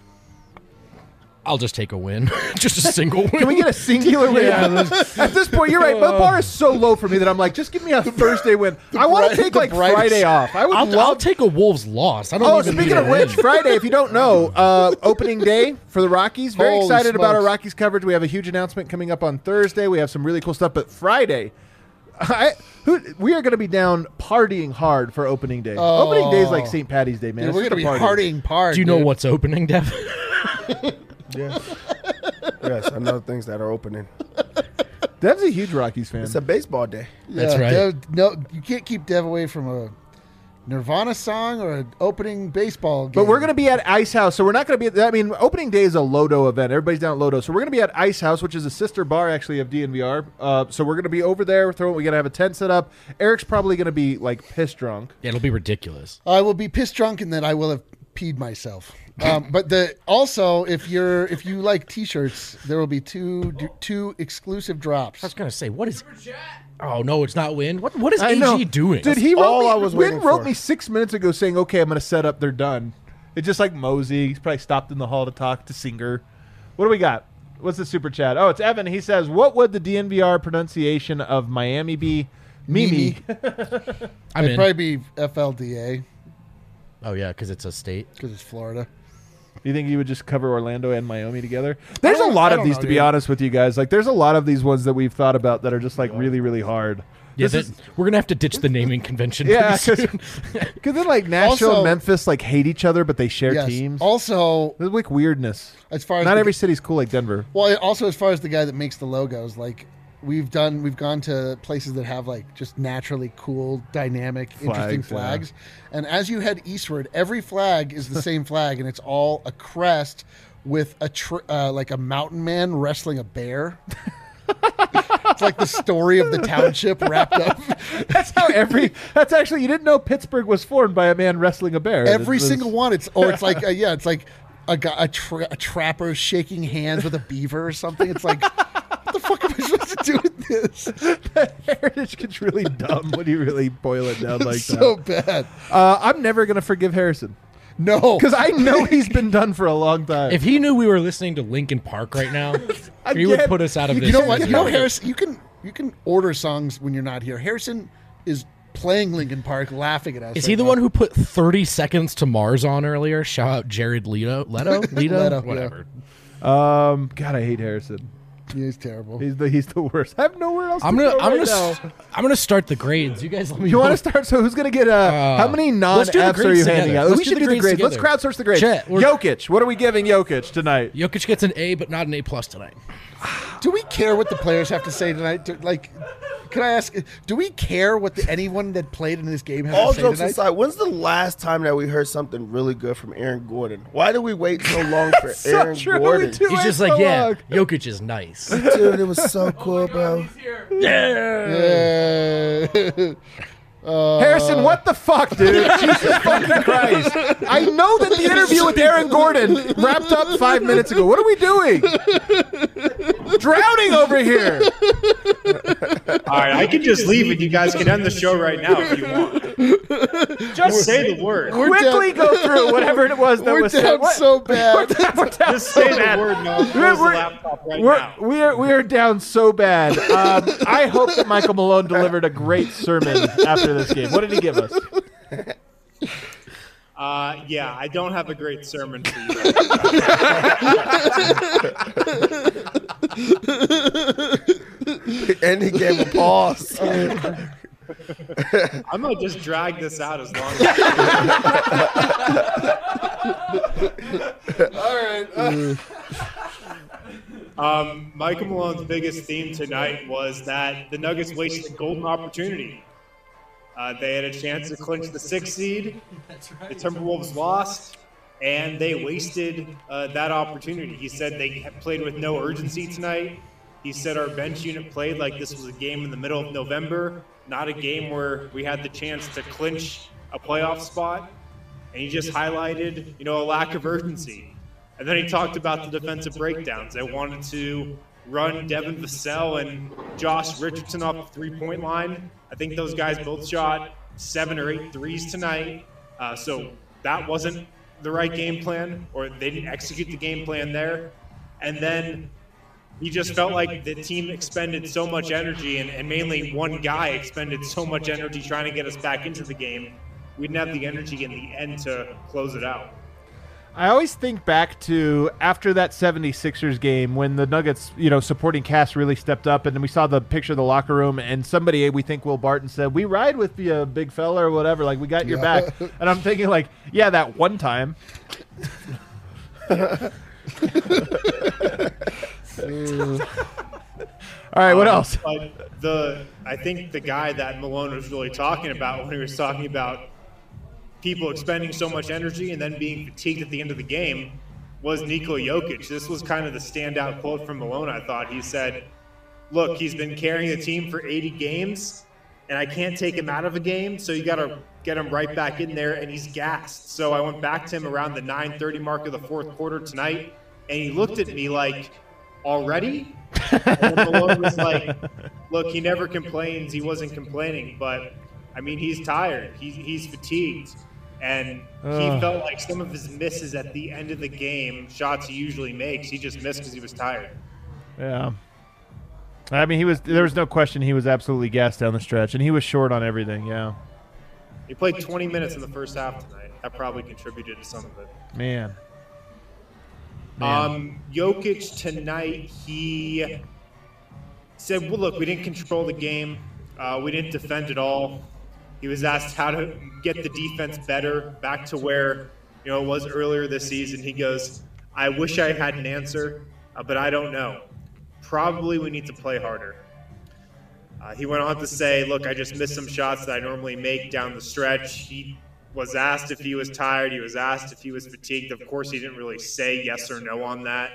I'll just take a win. Just a single win. Can we get a singular win? Yeah, At this point, you're right. But the bar is so low for me that I'm like, just give me a Thursday win. I want to take the like brightest- Friday off. I would I'll love take a Wolves loss. I don't Oh, even speaking need a of which, win. Friday, if you don't know, opening day for the Rockies. Very Holy excited about our smokes. Rockies coverage. We have a huge announcement coming up on Thursday. We have some really cool stuff. But Friday, We are going to be down partying hard for opening day. Opening day is like St. Patty's Day, man. Dude, It's we're just gonna be a party. partying hard. Do you know dude. what's opening, Dev? Yes. Yes, I know things that are opening. Dev's a huge Rockies fan. It's a baseball day. That's right. Dev, no, you can't keep Dev away from a Nirvana song or an opening baseball game. But we're going to be at Ice House, so we're not going to be. I mean, opening day is a Lodo event. Everybody's down at Lodo, so we're going to be at Ice House, which is a sister bar actually of DNVR. So we're going to be over there. We're going to have a tent set up. Eric's probably going to be like piss drunk. Yeah, it'll be ridiculous. I will be pissed drunk, and then I will have peed myself. But also, if you like T-shirts, there will be two exclusive drops. I was gonna say, what is? Oh no, it's not Win. What is I know. AG doing? Dude, he all wrote I me, was Win waiting wrote for. me 6 minutes ago saying, okay, I'm going to set up. They're done. It's just like Mosey. He's probably stopped in the hall to talk to Singer. What do we got? What's the super chat? Oh, it's Evan. He says, what would the DNVR pronunciation of Miami be? Mimi. I'm It'd in. probably be FLDA Oh yeah, because it's a state. because it's Florida. You think you would just cover Orlando and Miami together? There's a don't- lot I of don't these, know, to be dude. honest with you guys. Like, there's a lot of these ones that we've thought about that are just like really, really hard. Yeah, This is- we're gonna have to ditch the naming convention. Yeah, pretty soon. because then like Nashville Also- and Memphis like hate each other, but they share Yes. teams. Also, There's like weirdness. as far as Not the- every city's cool like Denver. well, also as far as the guy that makes the logos, like we've gone to places that have like just naturally cool, dynamic, interesting Flags, flags. And as you head eastward, every flag is the same flag, and it's all a crest with like a mountain man wrestling a bear. It's like the story of the township wrapped up. That's how that's actually, you didn't know Pittsburgh was formed by a man wrestling a bear. Every It was- single one. It's like it's like a trapper shaking hands with a beaver or something. It's like, what the fuck am I supposed to do with this? Heritage gets really dumb when you really boil it down like So that. bad. I'm never going to forgive Harrison No, because I know he's been done for a long time. If he knew we were listening to Linkin Park right now, he would Again, put us out of this. you know what? You know, misery. Harrison, you can order songs when you're not here. Harrison is playing Linkin Park, laughing at us. Is right he the now. one who put 30 Seconds to Mars on earlier? Shout out Jared Leto. Leto? Leto, Whatever. God, I hate Harrison. He's terrible. He's the worst. I have nowhere else I'm to gonna go right now. I'm gonna start the grades. You guys let me You know. want to start? So who's going to get how many let's do the non-Fs are grades you handing together. out? Let's We do should the do the grades grades. Let's together. crowdsource the grades. Chet, we're- Jokic. What are we giving Jokic tonight? Jokic gets an A, but not an A plus tonight. Do we care what the players have to say tonight? Can I ask? Do we care what anyone that played in this game has All to say jokes tonight? aside, when's the last time that we heard something really good from Aaron Gordon? Why do we wait so long for So Aaron true, we Gordon? do. He's wait just so like, yeah, long. Jokic is nice. Dude, it was so cool, bro. He's here. Yeah. Harrison, what the fuck, dude? Jesus fucking Christ. I know that the interview with Aaron Gordon wrapped up 5 minutes ago. What are we doing? Drowning over here. All right, I can just leave and you guys can end the show right now if you want. Just say the word. Quickly go through whatever it was that We're was down said. What? so bad. We're down Just so say the bad. word and I'll close the We're- laptop right now. We are down so bad. I hope that Michael Malone delivered a great sermon after this game. What did he give us? Yeah, I don't have a great sermon for you. And he gave a pause. I might just drag this out as long as. Michael Malone's biggest theme tonight was that the Nuggets wasted a golden opportunity. They had a chance to clinch the 6th seed. The Timberwolves lost, and they wasted that opportunity. He said they had played with no urgency tonight. He said our bench unit played like this was a game in the middle of November, not a game where we had the chance to clinch a playoff spot. And he just highlighted, a lack of urgency. And then he talked about the defensive breakdowns. They wanted to run Devin Vassell and Josh Richardson off the three-point line. I think those guys both shot 7 or 8 threes tonight. So that wasn't the right game plan, or they didn't execute the game plan there. And then he just felt like the team expended so much energy, and mainly one guy expended so much energy trying to get us back into the game. We didn't have the energy in the end to close it out. I always think back to after that 76ers game when the Nuggets, supporting cast really stepped up, and then we saw the picture of the locker room, and somebody, we think Will Barton, said, "We ride with you, big fella," or whatever. Like, we got your back. And I'm thinking, like, yeah, that one time. All right, what else? But I think the guy that Malone was really talking about when he was talking about people expending so much energy and then being fatigued at the end of the game was Nikola Jokic. This was kind of the standout quote from Malone, I thought. He said, look, he's been carrying the team for 80 games, and I can't take him out of a game, so you got to get him right back in there, and he's gassed. So I went back to him around the 9:30 mark of the fourth quarter tonight, and he looked at me like, already? And then Malone was like, look, he never complains. He wasn't complaining, but, I mean, he's tired. He's fatigued. And he felt like some of his misses at the end of the game, shots he usually makes, he just missed because he was tired. Yeah. I mean, there was no question he was absolutely gassed down the stretch, and he was short on everything, yeah. He played 20 minutes in the first half tonight. That probably contributed to some of it. Man. Jokic tonight, he said, well, look, we didn't control the game. We didn't defend at all. He was asked how to get the defense better, back to where it was earlier this season. He goes, I wish I had an answer, but I don't know. Probably we need to play harder. He went on to say, look, I just missed some shots that I normally make down the stretch. He was asked if he was tired. He was asked if he was fatigued. Of course, he didn't really say yes or no on that.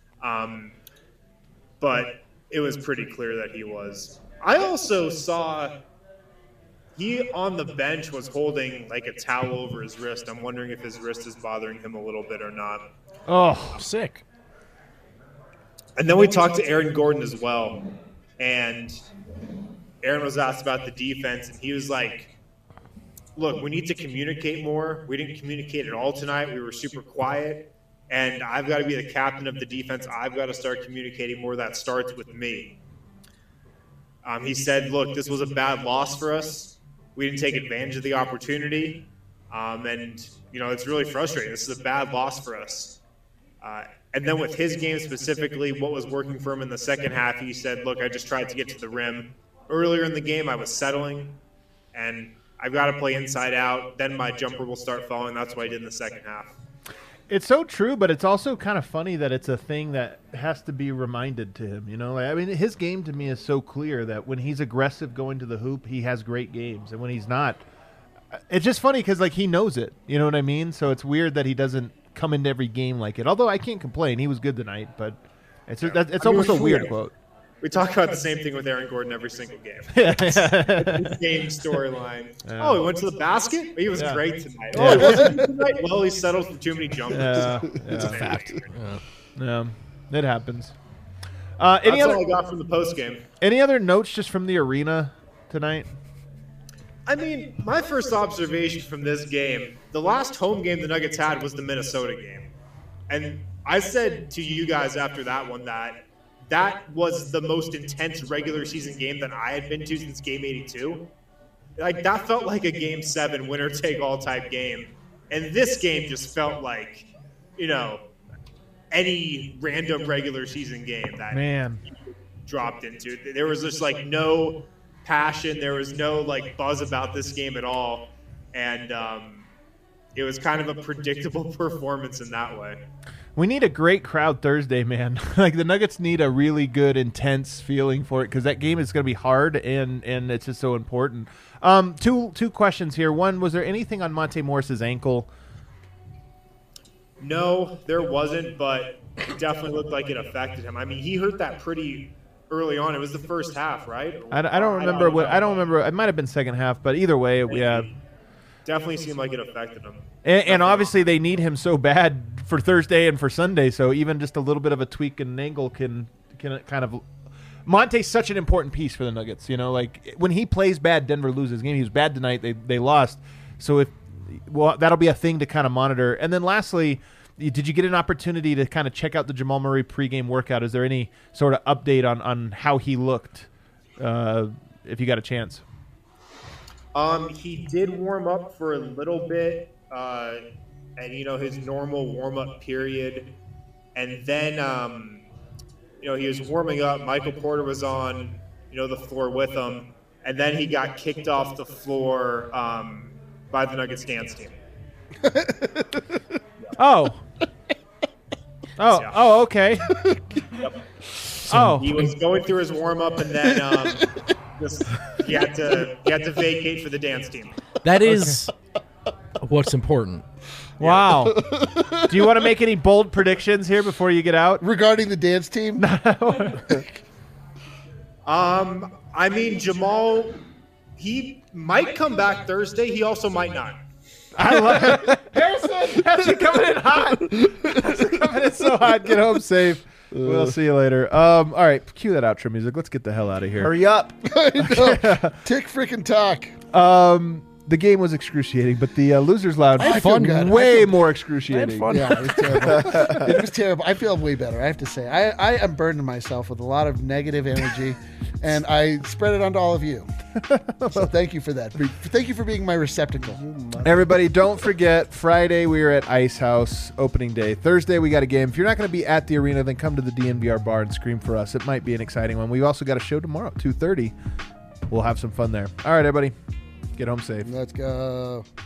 But it was pretty clear that he was. I also saw he on the bench was holding like a towel over his wrist. I'm wondering if his wrist is bothering him a little bit or not. Oh, sick. And then we talked to Aaron Gordon as well. And Aaron was asked about the defense, and he was like, look, we need to communicate more. We didn't communicate at all tonight. We were super quiet. And I've got to be the captain of the defense. I've got to start communicating more. That starts with me. He said, look, this was a bad loss for us. We didn't take advantage of the opportunity. And, it's really frustrating. This is a bad loss for us. And then with his game specifically, what was working for him in the second half, he said, look, I just tried to get to the rim. Earlier in the game, I was settling, and I've got to play inside out. Then my jumper will start falling. That's what I did in the second half. It's so true, but it's also kind of funny that it's a thing that has to be reminded to him. His game to me is so clear that when he's aggressive going to the hoop, he has great games. And when he's not, it's just funny because, he knows it. You know what I mean? So it's weird that he doesn't come into every game like it. Although I can't complain. He was good tonight, but it's almost a weird quote. We talk about the same thing with Aaron Gordon every single game. It's the same storyline. Oh, he went to the basket? He was great tonight. Oh, he wasn't good tonight? Well, he settled for too many jumpers. It's a fact. Yeah, it happens. That's all I got from the postgame. Any other notes just from the arena tonight? I mean, my first observation from this game, the last home game the Nuggets had was the Minnesota game. And I said to you guys after that one that was the most intense regular season game that I had been to since Game 82. That felt like a Game 7 winner-take-all type game. And this game just felt like, any random regular season game that you dropped into. There was just, no passion. There was no, buzz about this game at all. And it was kind of a predictable performance in that way. We need a great crowd Thursday, man. The Nuggets need a really good, intense feeling for it because that game is going to be hard and it's just so important. Two questions here. One, was there anything on Monte Morris's ankle? No, there wasn't, but it definitely looked like it affected him. I mean, he hurt that pretty early on. It was the first half, right? I don't remember. I don't remember. It might have been second half, but either way, yeah. Definitely seemed like it affected him. And obviously they need him so bad for Thursday and for Sunday, so even just a little bit of a tweak in an angle can kind of – Monte's such an important piece for the Nuggets. When he plays bad, Denver loses game. He was bad tonight. They lost. So that'll be a thing to kind of monitor. And then lastly, did you get an opportunity to kind of check out the Jamal Murray pregame workout? Is there any sort of update on how he looked if you got a chance? He did warm up for a little bit. and his normal warm up period, and then he was warming up. Michael Porter was on the floor with him, and then he got kicked off the floor by the Nuggets dance team. Oh. Oh. Yeah. Oh. Okay. Oh. He was going through his warm up, and then he had to vacate for the dance team. That is what's important. Wow. Do you want to make any bold predictions here before you get out? Regarding the dance team, I mean, Jamal, he might come back Thursday. He also might not. I love it. Harrison, that's you coming in hot. That's you coming in so hot. Get home safe. We'll see you later. All right, cue that outro music. Let's get the hell out of here. Hurry up. tick freaking talk. The game was excruciating, but the Losers Lounge I feel good. way more excruciating. Yeah, it was terrible. It was terrible. I feel way better, I have to say. I am burdening myself with a lot of negative energy, and I spread it onto all of you. So thank you for that. Thank you for being my receptacle. Everybody, don't forget, Friday we are at Ice House, opening day. Thursday we got a game. If you're not going to be at the arena, then come to the DNVR bar and scream for us. It might be an exciting one. We've also got a show tomorrow, 2:30. We'll have some fun there. All right, everybody. Get home safe. Let's go.